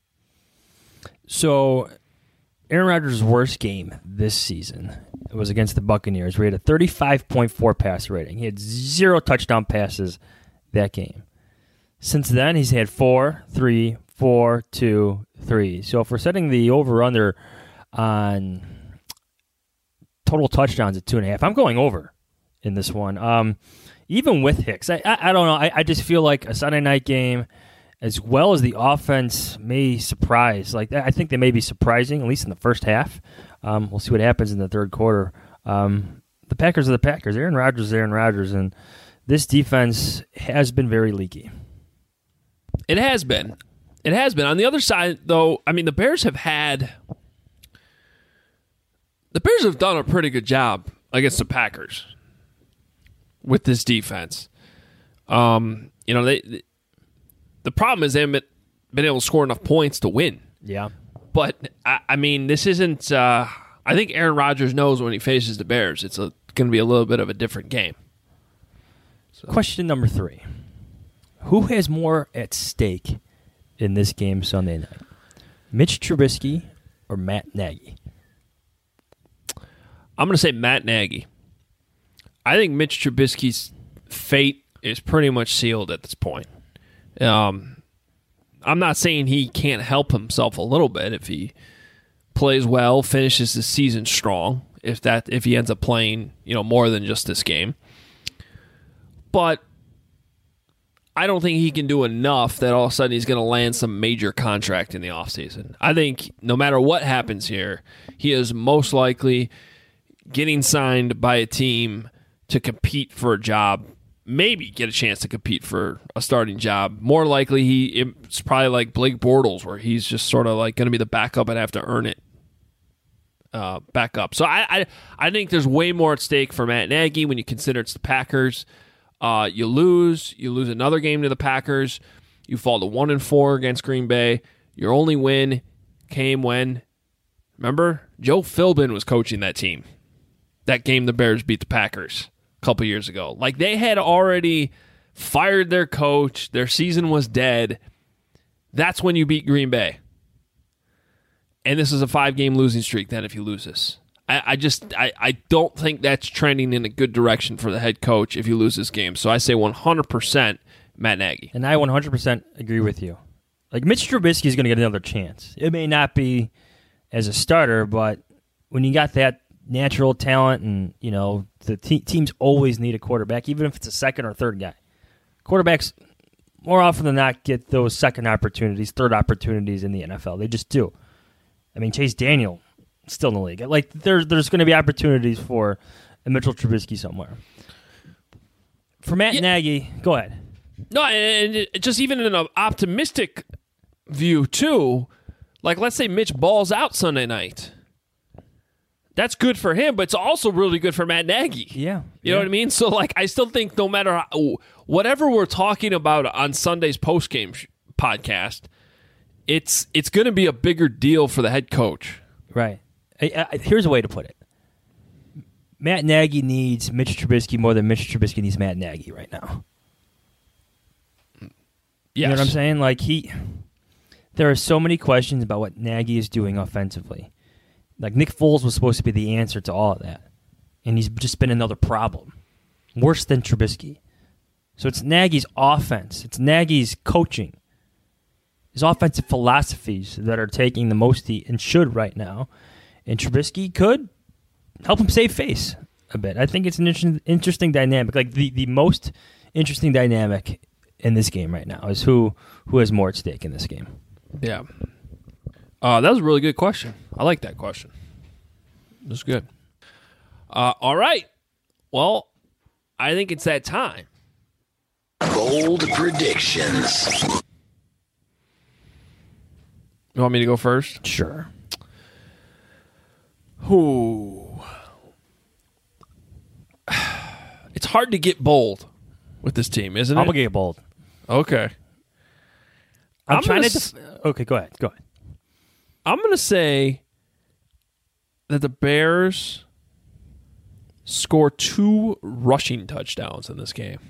So, Aaron Rodgers' worst game this season was against the Buccaneers, where he had a thirty-five point four passer rating. He had zero touchdown passes that game. Since then, he's had four, three, four, two, three. So if we're setting the over-under on total touchdowns at two and a half, I'm going over in this one. Um, even with Hicks, I, I, I don't know. I, I just feel like a Sunday night game, as well as the offense may surprise. Like I think they may be surprising, at least in the first half. Um, we'll see what happens in the third quarter. Um, the Packers are the Packers. Aaron Rodgers is Aaron Rodgers, and this defense has been very leaky. It has been. It has been. On the other side, though, I mean, the Bears have had... The Bears have done a pretty good job against the Packers with this defense. Um, you know, they... The problem is they haven't been able to score enough points to win. Yeah. But, I, I mean, this isn't... Uh, I think Aaron Rodgers knows when he faces the Bears, it's going to be a little bit of a different game. So. Question number three. Who has more at stake in this game Sunday night? Mitch Trubisky or Matt Nagy? I'm going to say Matt Nagy. I think Mitch Trubisky's fate is pretty much sealed at this point. Um, I'm not saying he can't help himself a little bit if he plays well, finishes the season strong, if that if he ends up playing, you know, more than just this game. But I don't think he can do enough that all of a sudden he's going to land some major contract in the offseason. I think no matter what happens here, he is most likely getting signed by a team to compete for a job, maybe get a chance to compete for a starting job. More likely, he it's probably like Blake Bortles, where he's just sort of like going to be the backup and have to earn it uh, back up. So I, I I think there's way more at stake for Matt Nagy when you consider it's the Packers. Uh, you lose, you lose another game to the Packers. You fall to one and four against Green Bay. Your only win came when, remember, Joe Philbin was coaching that team. That game the Bears beat the Packers a couple years ago. Like, they had already fired their coach. Their season was dead. That's when you beat Green Bay. And this is a five-game losing streak then if you lose this. I, I just I, I don't think that's trending in a good direction for the head coach if you lose this game. So I say one hundred percent Matt Nagy. And I one hundred percent agree with you. Like, Mitch Trubisky is going to get another chance. It may not be as a starter, but when you got that natural talent and, you know, the te- teams always need a quarterback, even if it's a second or third guy. Quarterbacks, more often than not, get those second opportunities, third opportunities in the N F L. They just do. I mean, Chase Daniel, still in the league. Like, there, there's going to be opportunities for a Mitchell Trubisky somewhere. For Matt yeah. Nagy, go ahead. No, and it, just even in an optimistic view, too, like, let's say Mitch balls out Sunday night. That's good for him, but it's also really good for Matt Nagy. Yeah. You yeah. know what I mean? So, like, I still think no matter how, whatever we're talking about on Sunday's postgame sh- podcast, it's it's going to be a bigger deal for the head coach. Right. I, I, here's a way to put it. Matt Nagy needs Mitch Trubisky more than Mitch Trubisky needs Matt Nagy right now. Yes. You know what I'm saying? Like, he... There are so many questions about what Nagy is doing offensively. Like, Nick Foles was supposed to be the answer to all of that. And he's just been another problem. Worse than Trubisky. So it's Nagy's offense. It's Nagy's coaching. His offensive philosophies that are taking the most heat and should right now. And Trubisky could help him save face a bit. I think it's an interesting, interesting dynamic. Like, the, the most interesting dynamic in this game right now is who, who has more at stake in this game. Yeah. Uh, that was a really good question. I like that question. That's good. Uh, all right. Well, I think it's that time. Bold predictions. You want me to go first? Sure. Ooh. It's hard to get bold with this team, isn't it? I'm going to get bold. Okay. I'm, I'm trying to... s- Def- okay, go ahead. Go ahead. I'm going to say that the Bears score two rushing touchdowns in this game.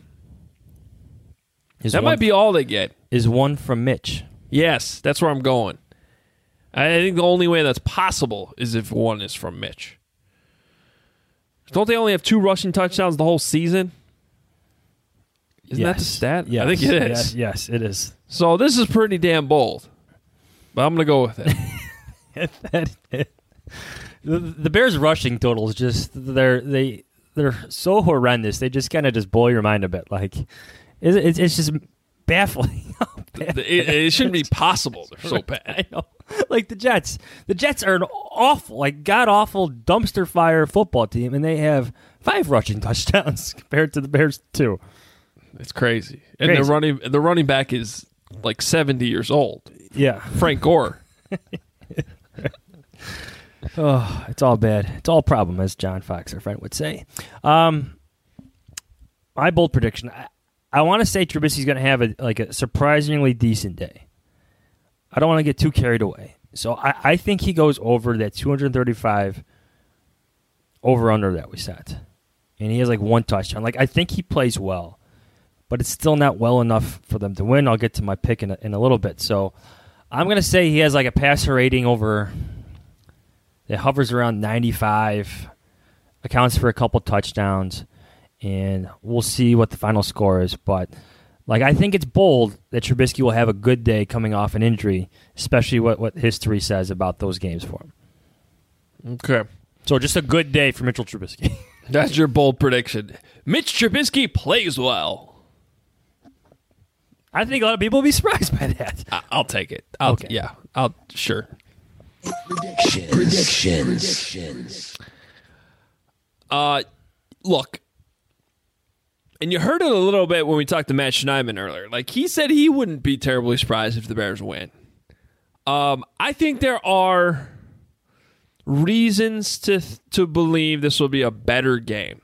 Is that one, might be all they get. Is one from Mitch. Yes, that's where I'm going. I think the only way that's possible is if one is from Mitch. Don't they only have two rushing touchdowns the whole season? Isn't yes. that the stat? Yes. I think it is. Yes, yes, it is. So this is pretty damn bold. But I'm going to go with it. the, the Bears' rushing totals just they're they they're so horrendous. They just kind of just blow your mind a bit. Like it's it's, it's just baffling. it, it shouldn't be possible. They're so bad. I know. Like the Jets, the Jets are an awful, like god awful dumpster fire football team, and they have five rushing touchdowns compared to the Bears two. It's crazy. And crazy. the running the running back is like seventy years old. Yeah, Frank Gore. Oh, it's all bad. It's all problem, as John Fox, our friend, would say. Um, my bold prediction: I, I want to say Trubisky's going to have a like a surprisingly decent day. I don't want to get too carried away, so I, I think he goes over that two thirty-five over under that we set, and he has like one touchdown. Like I think he plays well, but it's still not well enough for them to win. I'll get to my pick in a, in a little bit. So I'm going to say he has like a passer rating over. It hovers around ninety-five, accounts for a couple touchdowns, and we'll see what the final score is. But like I think it's bold that Trubisky will have a good day coming off an injury, especially what, what history says about those games for him. Okay. So just a good day for Mitchell Trubisky. That's your bold prediction. Mitch Trubisky plays well. I think a lot of people will be surprised by that. I, I'll take it. I'll, Okay. Yeah, I'll sure. Predictions. Predictions. Uh, look, and you heard it a little bit when we talked to Matt Schneidman earlier. Like, he said he wouldn't be terribly surprised if the Bears win. Um, I think there are reasons to to believe this will be a better game.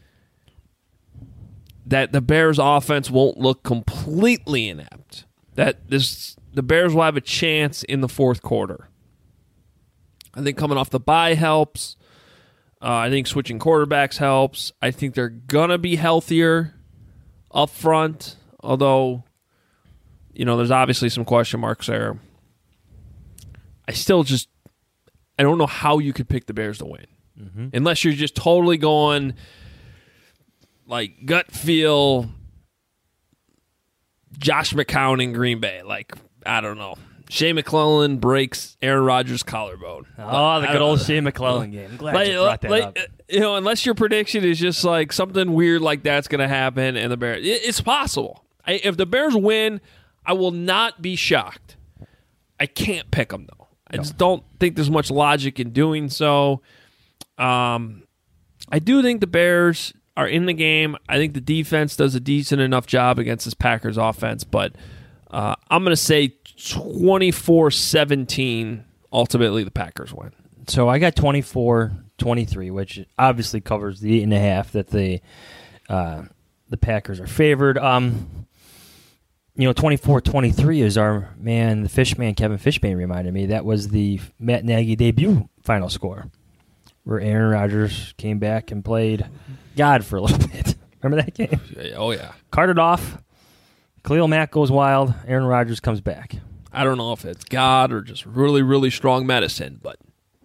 That the Bears' offense won't look completely inept. That this the Bears will have a chance in the fourth quarter. I think coming off the bye helps. Uh, I think switching quarterbacks helps. I think they're going to be healthier up front, although, you know, there's obviously some question marks there. I still just, I don't know how you could pick the Bears to win. Mm-hmm. Unless you're just totally going, like, gut feel, Josh McCown in Green Bay. Like, I don't know. Shea McClellan breaks Aaron Rodgers' collarbone. Oh, the good old Shea McClellan game. I'm glad like, you brought that like, up. You know, unless your prediction is just like something weird like that's going to happen, and the Bears, it, it's possible. I, if the Bears win, I will not be shocked. I can't pick them though. I no. just don't think there's much logic in doing so. Um, I do think the Bears are in the game. I think the defense does a decent enough job against this Packers offense, but uh, I'm going to say twenty-four seventeen, ultimately the Packers win. So I got twenty-four twenty-three, which obviously covers the eight and a half that the uh, the Packers are favored. Um, you know, twenty-four twenty-three is our man, the Fishman, Kevin Fishman reminded me. That was the Matt Nagy debut final score, where Aaron Rodgers came back and played God for a little bit. Remember that game? Oh, yeah. Carted off. Khalil Mack goes wild. Aaron Rodgers comes back. I don't know if it's God or just really, really strong medicine, but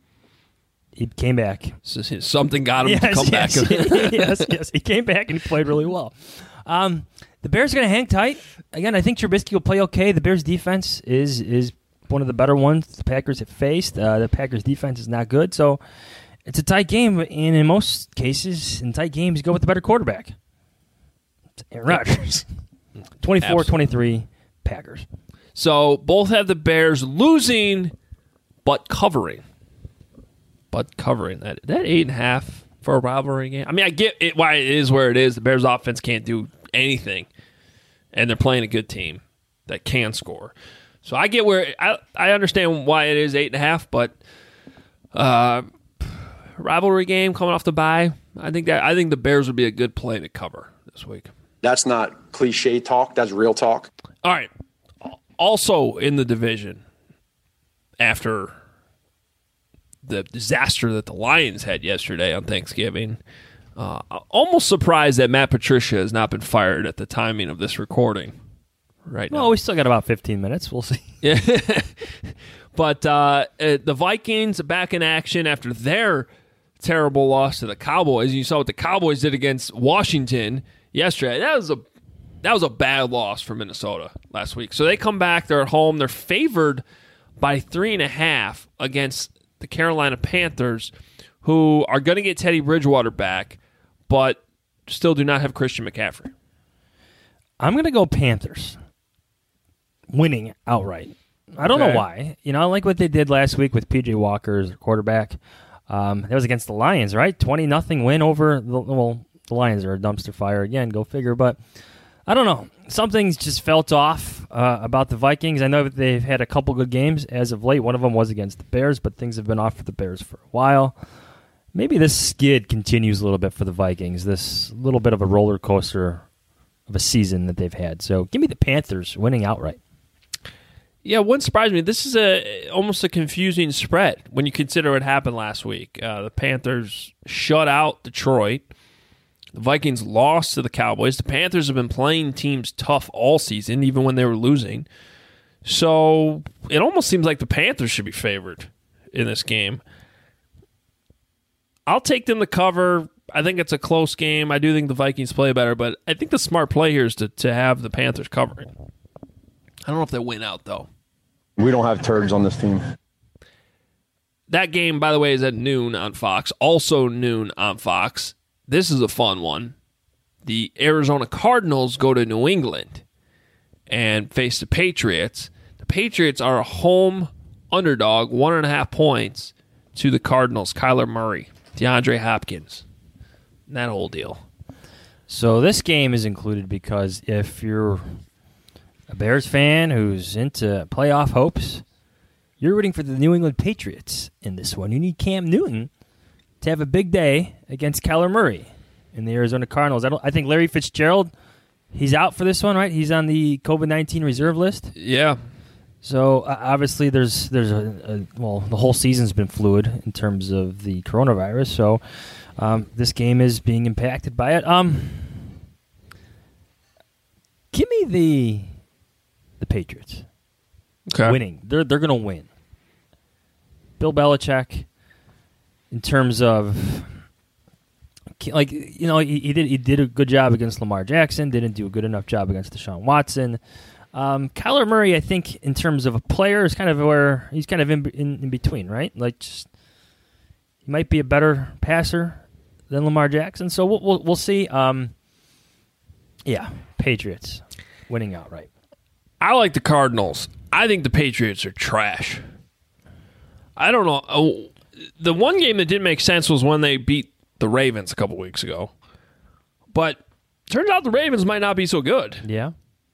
he came back. Something got him yes, to come yes, back. yes, yes. He came back and he played really well. Um, the Bears are going to hang tight. Again, I think Trubisky will play okay. The Bears' defense is is one of the better ones the Packers have faced. Uh, the Packers' defense is not good, so it's a tight game. And in most cases, in tight games, you go with the better quarterback. It's Aaron Rodgers. twenty-four twenty-three, Packers. So both have the Bears losing, but covering. But covering. That that eight and a half for a rivalry game. I mean, I get it why it is where it is. The Bears offense can't do anything, and they're playing a good team that can score. So I get where I I understand why it is eight and a half, but uh, rivalry game coming off the bye. I think that I think the Bears would be a good play to cover this week. That's not cliche talk. That's real talk. All right. Also in the division, after the disaster that the Lions had yesterday on Thanksgiving, uh, almost surprised that Matt Patricia has not been fired at the timing of this recording right now. Well, we still got about fifteen minutes. We'll see. Yeah. But uh, the Vikings are back in action after their terrible loss to the Cowboys. You saw what the Cowboys did against Washington yesterday. That was a that was a bad loss for Minnesota last week. So they come back. They're at home. They're favored by three and a half against the Carolina Panthers, who are going to get Teddy Bridgewater back, but still do not have Christian McCaffrey. I'm going to go Panthers, winning outright. I don't Okay. know why. You know, I like what they did last week with P J Walker as their quarterback. Um, that was against the Lions, right? twenty nothing win over the well. The Lions are a dumpster fire again. Go figure. But I don't know. Something's just felt off uh, about the Vikings. I know that they've had a couple good games as of late. One of them was against the Bears, but things have been off for the Bears for a while. Maybe this skid continues a little bit for the Vikings. This little bit of a roller coaster of a season that they've had. So give me the Panthers winning outright. Yeah, it wouldn't surprise me. This is a almost a confusing spread when you consider what happened last week. Uh, the Panthers shut out Detroit. The Vikings lost to the Cowboys. The Panthers have been playing teams tough all season, even when they were losing. So it almost seems like the Panthers should be favored in this game. I'll take them to cover. I think it's a close game. I do think the Vikings play better, but I think the smart play here is to, to have the Panthers covering. I don't know if they win out, though. We don't have turds on this team. That game, by the way, is at noon on Fox. Also noon on Fox. This is a fun one. The Arizona Cardinals go to New England and face the Patriots. The Patriots are a home underdog, one and a half points to the Cardinals. Kyler Murray, DeAndre Hopkins, that whole deal. So this game is included because if you're a Bears fan who's into playoff hopes, you're rooting for the New England Patriots in this one. You need Cam Newton to have a big day against Kyler Murray in the Arizona Cardinals. I don't. I think Larry Fitzgerald, he's out for this one, right? He's on the COVID nineteen reserve list. Yeah. So uh, obviously there's there's a, a well the whole season's been fluid in terms of the coronavirus. So um, this game is being impacted by it. Um, give me the the Patriots. Okay. Winning. They're they're gonna win. Bill Belichick, in terms of like you know he, he did he did a good job against Lamar Jackson. Didn't do a good enough job against Deshaun Watson. Um, Kyler Murray, I think, in terms of a player, is kind of where he's kind of in in, in between, right? Like, just, he might be a better passer than Lamar Jackson. So we'll we'll, we'll see. Um, yeah, Patriots winning outright. I like the Cardinals. I think the Patriots are trash. I don't know. Oh, the one game that didn't make sense was when they beat the Ravens a couple weeks ago. But turns out the Ravens might not be so good. Yeah.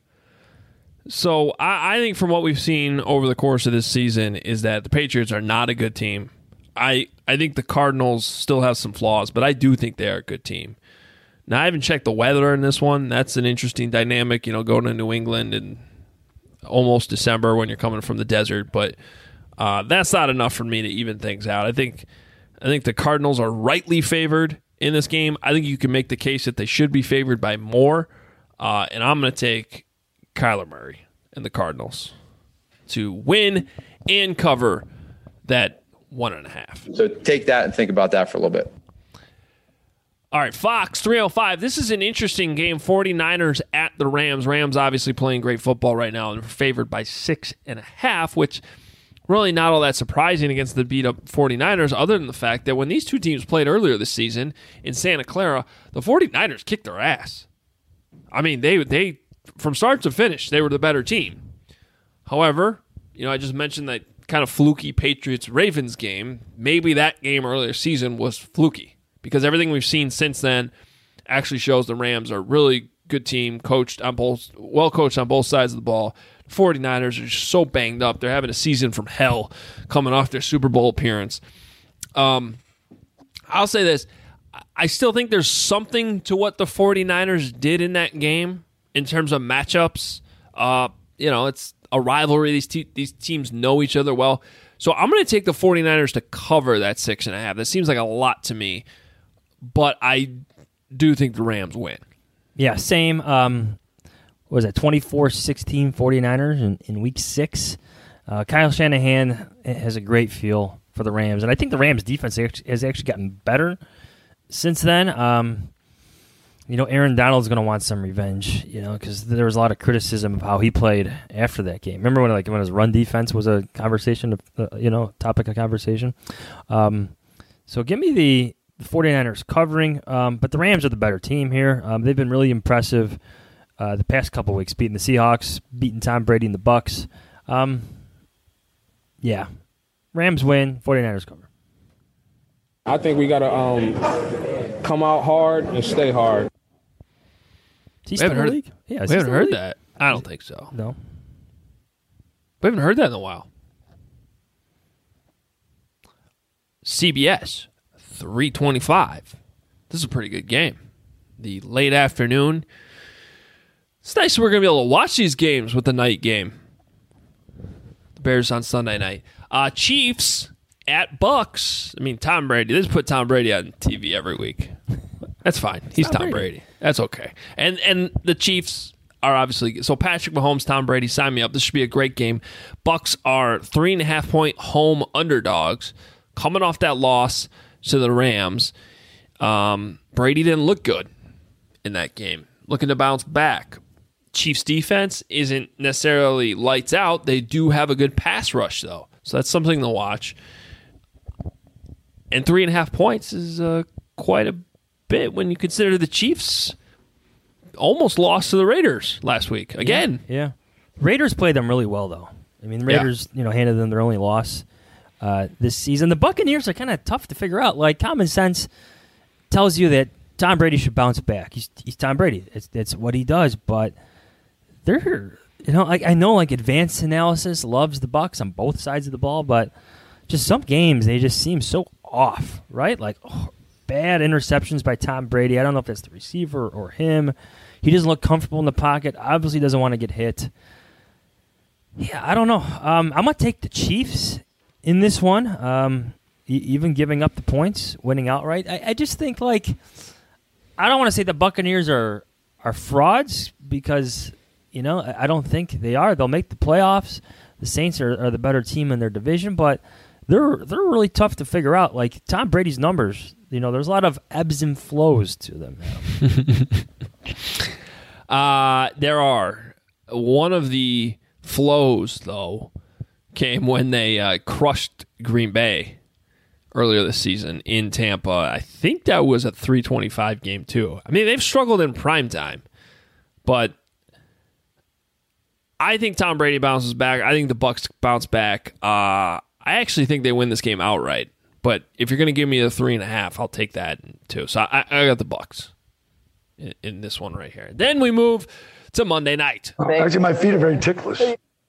So I, I think from what we've seen over the course of this season is that the Patriots are not a good team. I, I think the Cardinals still have some flaws, but I do think they are a good team. Now, I haven't checked the weather in this one. That's an interesting dynamic, you know, going to New England in almost December when you're coming from the desert. But uh, that's not enough for me to even things out. I think I think the Cardinals are rightly favored in this game. I think you can make the case that they should be favored by more. Uh, and I'm going to take Kyler Murray and the Cardinals to win and cover that one and a half. So take that and think about that for a little bit. All right, Fox three oh five. This is an interesting game. 49ers at the Rams. Rams obviously playing great football right now and favored by six and a half, which really not all that surprising against the beat-up 49ers, other than the fact that when these two teams played earlier this season in Santa Clara, the 49ers kicked their ass. I mean, they they from start to finish, they were the better team. However, you know, I just mentioned that kind of fluky Patriots-Ravens game. Maybe that game earlier season was fluky, because everything we've seen since then actually shows the Rams are a really good team, coached on both, well coached on both sides of the ball. The 49ers are just so banged up. They're having a season from hell coming off their Super Bowl appearance. Um, I'll say this. I still think there's something to what the 49ers did in that game in terms of matchups. Uh, you know, it's a rivalry. These, te- these teams know each other well. So I'm going to take the 49ers to cover that six and a half. That seems like a lot to me, but I do think the Rams win. Yeah, same. Um, what was it, twenty-four sixteen 49ers in, in week six? Uh, Kyle Shanahan has a great feel for the Rams, and I think the Rams' defense has actually gotten better since then. Um, you know, Aaron Donald's going to want some revenge, you know, because there was a lot of criticism of how he played after that game. Remember when like when his run defense was a conversation, of, uh, you know, topic of conversation? Um, so give me the, the 49ers covering, um, but the Rams are the better team here. Um, they've been really impressive uh, the past couple weeks, beating the Seahawks, beating Tom Brady and the Bucs. Um, yeah, Rams win, 49ers cover. I think we got to um, come out hard and stay hard. We haven't heard, league? Yeah, we haven't heard that. I don't think so. No. We haven't heard that in a while. C B S, three twenty-five. This is a pretty good game. The late afternoon. It's nice we're going to be able to watch these games with the night game. The Bears on Sunday night. Uh, Chiefs at Bucks. I mean, Tom Brady. They just put Tom Brady on T V every week. That's fine. He's Tom, Tom Brady. Brady. That's okay. And and the Chiefs are obviously so Patrick Mahomes, Tom Brady. Sign me up. This should be a great game. Bucks are three and a half point home underdogs, coming off that loss to the Rams. Um, Brady didn't look good in that game. Looking to bounce back. Chiefs defense isn't necessarily lights out. They do have a good pass rush though, so that's something to watch. And three and a half points is uh, quite a bit when you consider the Chiefs almost lost to the Raiders last week again. Yeah, yeah. Raiders played them really well though. I mean, the Raiders, yeah. you know, handed them their only loss uh, this season. The Buccaneers are kind of tough to figure out. Like common sense tells you that Tom Brady should bounce back. He's he's Tom Brady. It's it's what he does. But they're you know like I know like advanced analysis loves the Bucs on both sides of the ball, but just some games they just seem so off, right? Like. Oh, bad interceptions by Tom Brady. I don't know if that's the receiver or him. He doesn't look comfortable in the pocket. Obviously doesn't want to get hit. Yeah, I don't know. Um, I'm going to take the Chiefs in this one, um, e- even giving up the points, winning outright. I, I just think, like, I don't want to say the Buccaneers are, are frauds because, you know, I, I don't think they are. They'll make the playoffs. The Saints are, are the better team in their division, but they're they're really tough to figure out. Like Tom Brady's numbers, you know, there's a lot of ebbs and flows to them. uh, there are. One of the flows, though, came when they uh, crushed Green Bay earlier this season in Tampa. I think that was a three twenty-five game, too. I mean, they've struggled in prime time, but I think Tom Brady bounces back. I think the Bucs bounce back. Uh, I actually think they win this game outright. But if you're going to give me a three and a half, I'll take that too. So I, I got the Bucs in, in this one right here. Then we move to Monday night. Actually, my feet are very ticklish.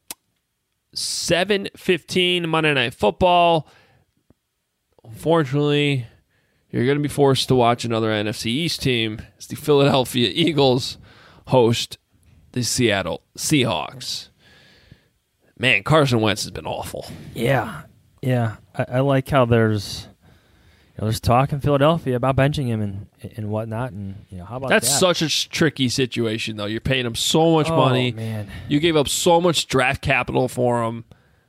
seven fifteen Monday Night Football. Unfortunately, you're going to be forced to watch another N F C East team as the Philadelphia Eagles host the Seattle Seahawks. Man, Carson Wentz has been awful. Yeah, yeah. I, I like how there's you know, there's talk in Philadelphia about benching him and and whatnot, and you know how about That's that? such a tricky situation, though. You're paying him so much Oh, money. man. You gave up so much draft capital for him.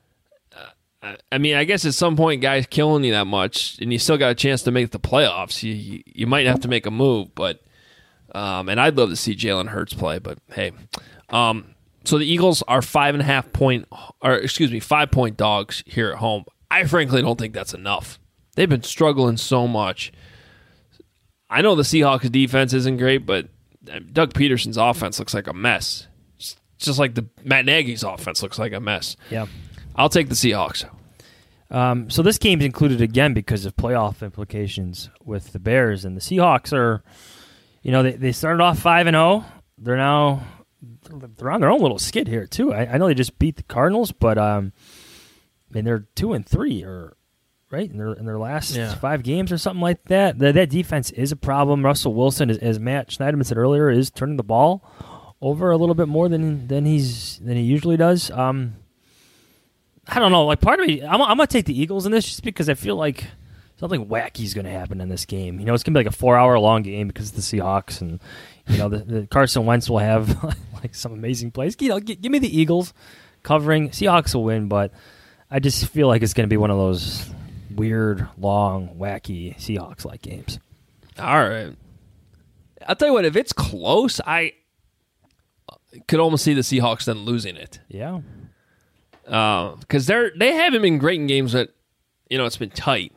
Uh, I mean, I guess at some point, guys killing you that much, and you still got a chance to make the playoffs. You you, you might have to make a move, but um, and I'd love to see Jalen Hurts play, but hey. Um, so the Eagles are five and a half point, or excuse me, five point dogs here at home. I frankly don't think that's enough. They've been struggling so much. I know the Seahawks defense isn't great, but Doug Peterson's offense looks like a mess. Just, just like the Matt Nagy's offense looks like a mess. Yeah. I'll take the Seahawks. Um, so this game's included again because of playoff implications with the Bears, and the Seahawks are, you know, they, they started off five and zero. They're now they're on their own little skid here too. I, I know they just beat the Cardinals, but um, I mean they're two and three, or right in their in their last Yeah. five games or something like that. The, that defense is a problem. Russell Wilson, as, as Matt Schneiderman said earlier, is turning the ball over a little bit more than than he's than he usually does. Um, I don't know. Like part of me, I'm, I'm gonna take the Eagles in this just because I feel like something wacky is gonna happen in this game. You know, it's gonna be like a four-hour long game because of the Seahawks, and you know, the, the Carson Wentz will have like some amazing plays. You know, g- give me the Eagles covering. Seahawks will win, but I just feel like it's gonna be one of those weird, long, wacky Seahawks-like games. All right. I'll tell you what, if it's close, I could almost see the Seahawks then losing it. Yeah. Because they're they haven't been great in games that, you know, it's been tight.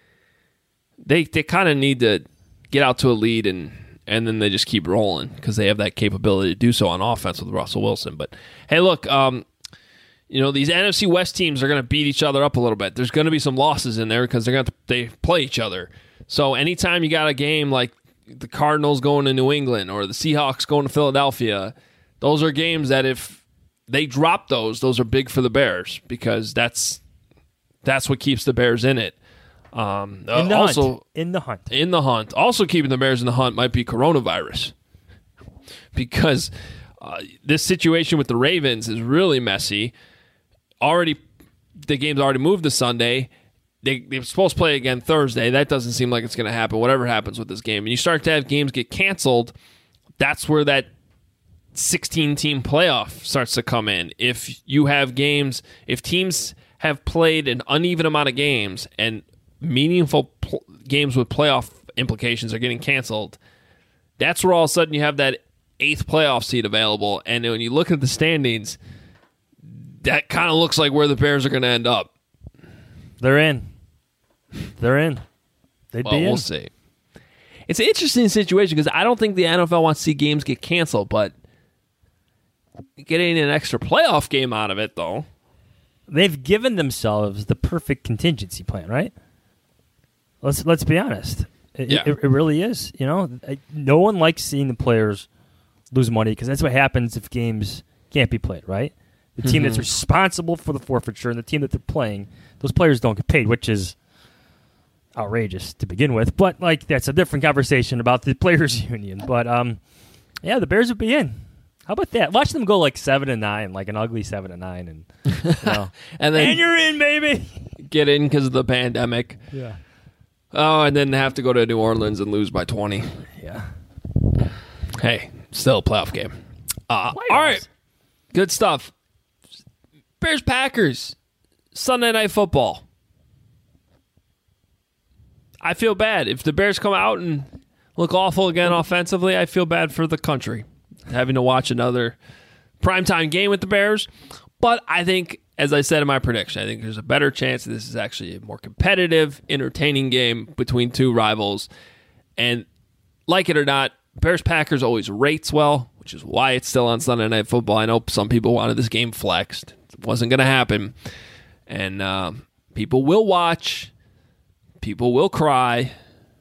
They they kind of need to get out to a lead and and then they just keep rolling because they have that capability to do so on offense with Russell Wilson. But hey, look, um, you know, these N F C West teams are going to beat each other up a little bit. There's going to be some losses in there because they're going to they play each other. So anytime you got a game like the Cardinals going to New England or the Seahawks going to Philadelphia, those are games that if they drop those, those are big for the Bears because that's that's what keeps the Bears in it. Um, In the uh, also, hunt. In the hunt. In the hunt. Also keeping the Bears in the hunt might be coronavirus because uh, this situation with the Ravens is really messy. Already, the game's already moved to Sunday. They, they're supposed to play again Thursday. That doesn't seem like it's going to happen, whatever happens with this game. And you start to have games get canceled, that's where that sixteen-team playoff starts to come in. If you have games, if teams have played an uneven amount of games and meaningful pl- games with playoff implications are getting canceled, that's where all of a sudden you have that eighth playoff seed available. And when you look at the standings, that kind of looks like where the Bears are going to end up. They're in. They're in. They'd Well, be in. we'll see. It's an interesting situation because I don't think the N F L wants to see games get canceled, but getting an extra playoff game out of it, though. They've given themselves the perfect contingency plan, right? Let's let's be honest. It, Yeah. it, it really is. You know, no one likes seeing the players lose money because that's what happens if games can't be played, right? The team Mhm. that's responsible for the forfeiture and the team that they're playing, those players don't get paid, which is outrageous to begin with. But like that's a different conversation about the players' union. But um, yeah, the Bears would be in. How about that? Watch them go like seven and nine, like an ugly seven and nine, and you know, and then and you're in, baby. Get in because of the pandemic. Yeah. Oh, and then have to go to New Orleans and lose by twenty. Yeah. Hey, still a playoff game. Uh, all right. Good stuff. Bears Packers. Sunday Night Football. I feel bad. If the Bears come out and look awful again offensively, I feel bad for the country having to watch another primetime game with the Bears. But I think, as I said in my prediction, I think there's a better chance that this is actually a more competitive, entertaining game between two rivals. And like it or not, Bears-Packers always rates well, which is why it's still on Sunday Night Football. I know some people wanted this game flexed. It wasn't going to happen. And uh, people will watch. People will cry.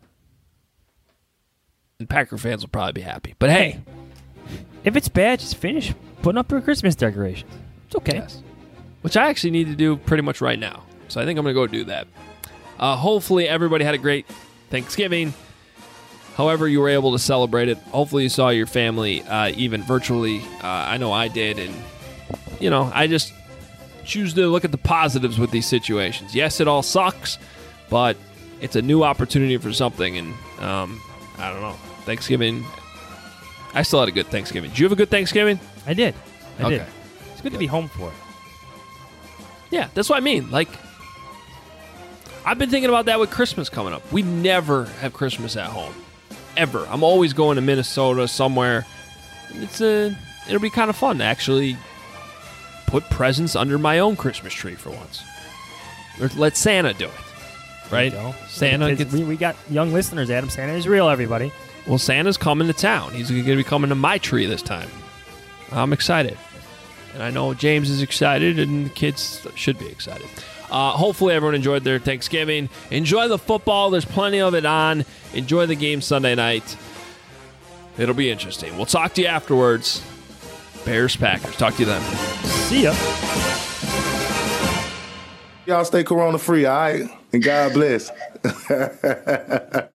And Packer fans will probably be happy. But hey. If it's bad, just finish putting up your Christmas decorations. It's okay. Yes. Which I actually need to do pretty much right now. So I think I'm going to go do that. Uh, hopefully everybody had a great Thanksgiving. However you were able to celebrate it. Hopefully you saw your family uh, even virtually. Uh, I know I did. And, you know, I just choose to look at the positives with these situations. Yes, it all sucks, but it's a new opportunity for something. And um, I don't know. Thanksgiving, I still had a good Thanksgiving. Did you have a good Thanksgiving? I did. I okay. did. It's good, good to be home for it. Yeah, that's what I mean. Like, I've been thinking about that with Christmas coming up. We never have Christmas at home. Ever. I'm always going to Minnesota somewhere. It's a, it'll be kind of fun to actually put presents under my own Christmas tree for once. Or let Santa do it. Right? Santa gets, we, we got young listeners, Adam. Santa is real, everybody. Well, Santa's coming to town. He's going to be coming to my tree this time. I'm excited. And I know James is excited, and the kids should be excited. Uh, hopefully everyone enjoyed their Thanksgiving. Enjoy the football. There's plenty of it on. Enjoy the game Sunday night. It'll be interesting. We'll talk to you afterwards. Bears-Packers. Talk to you then. See ya. Y'all stay corona free, all right? And God bless.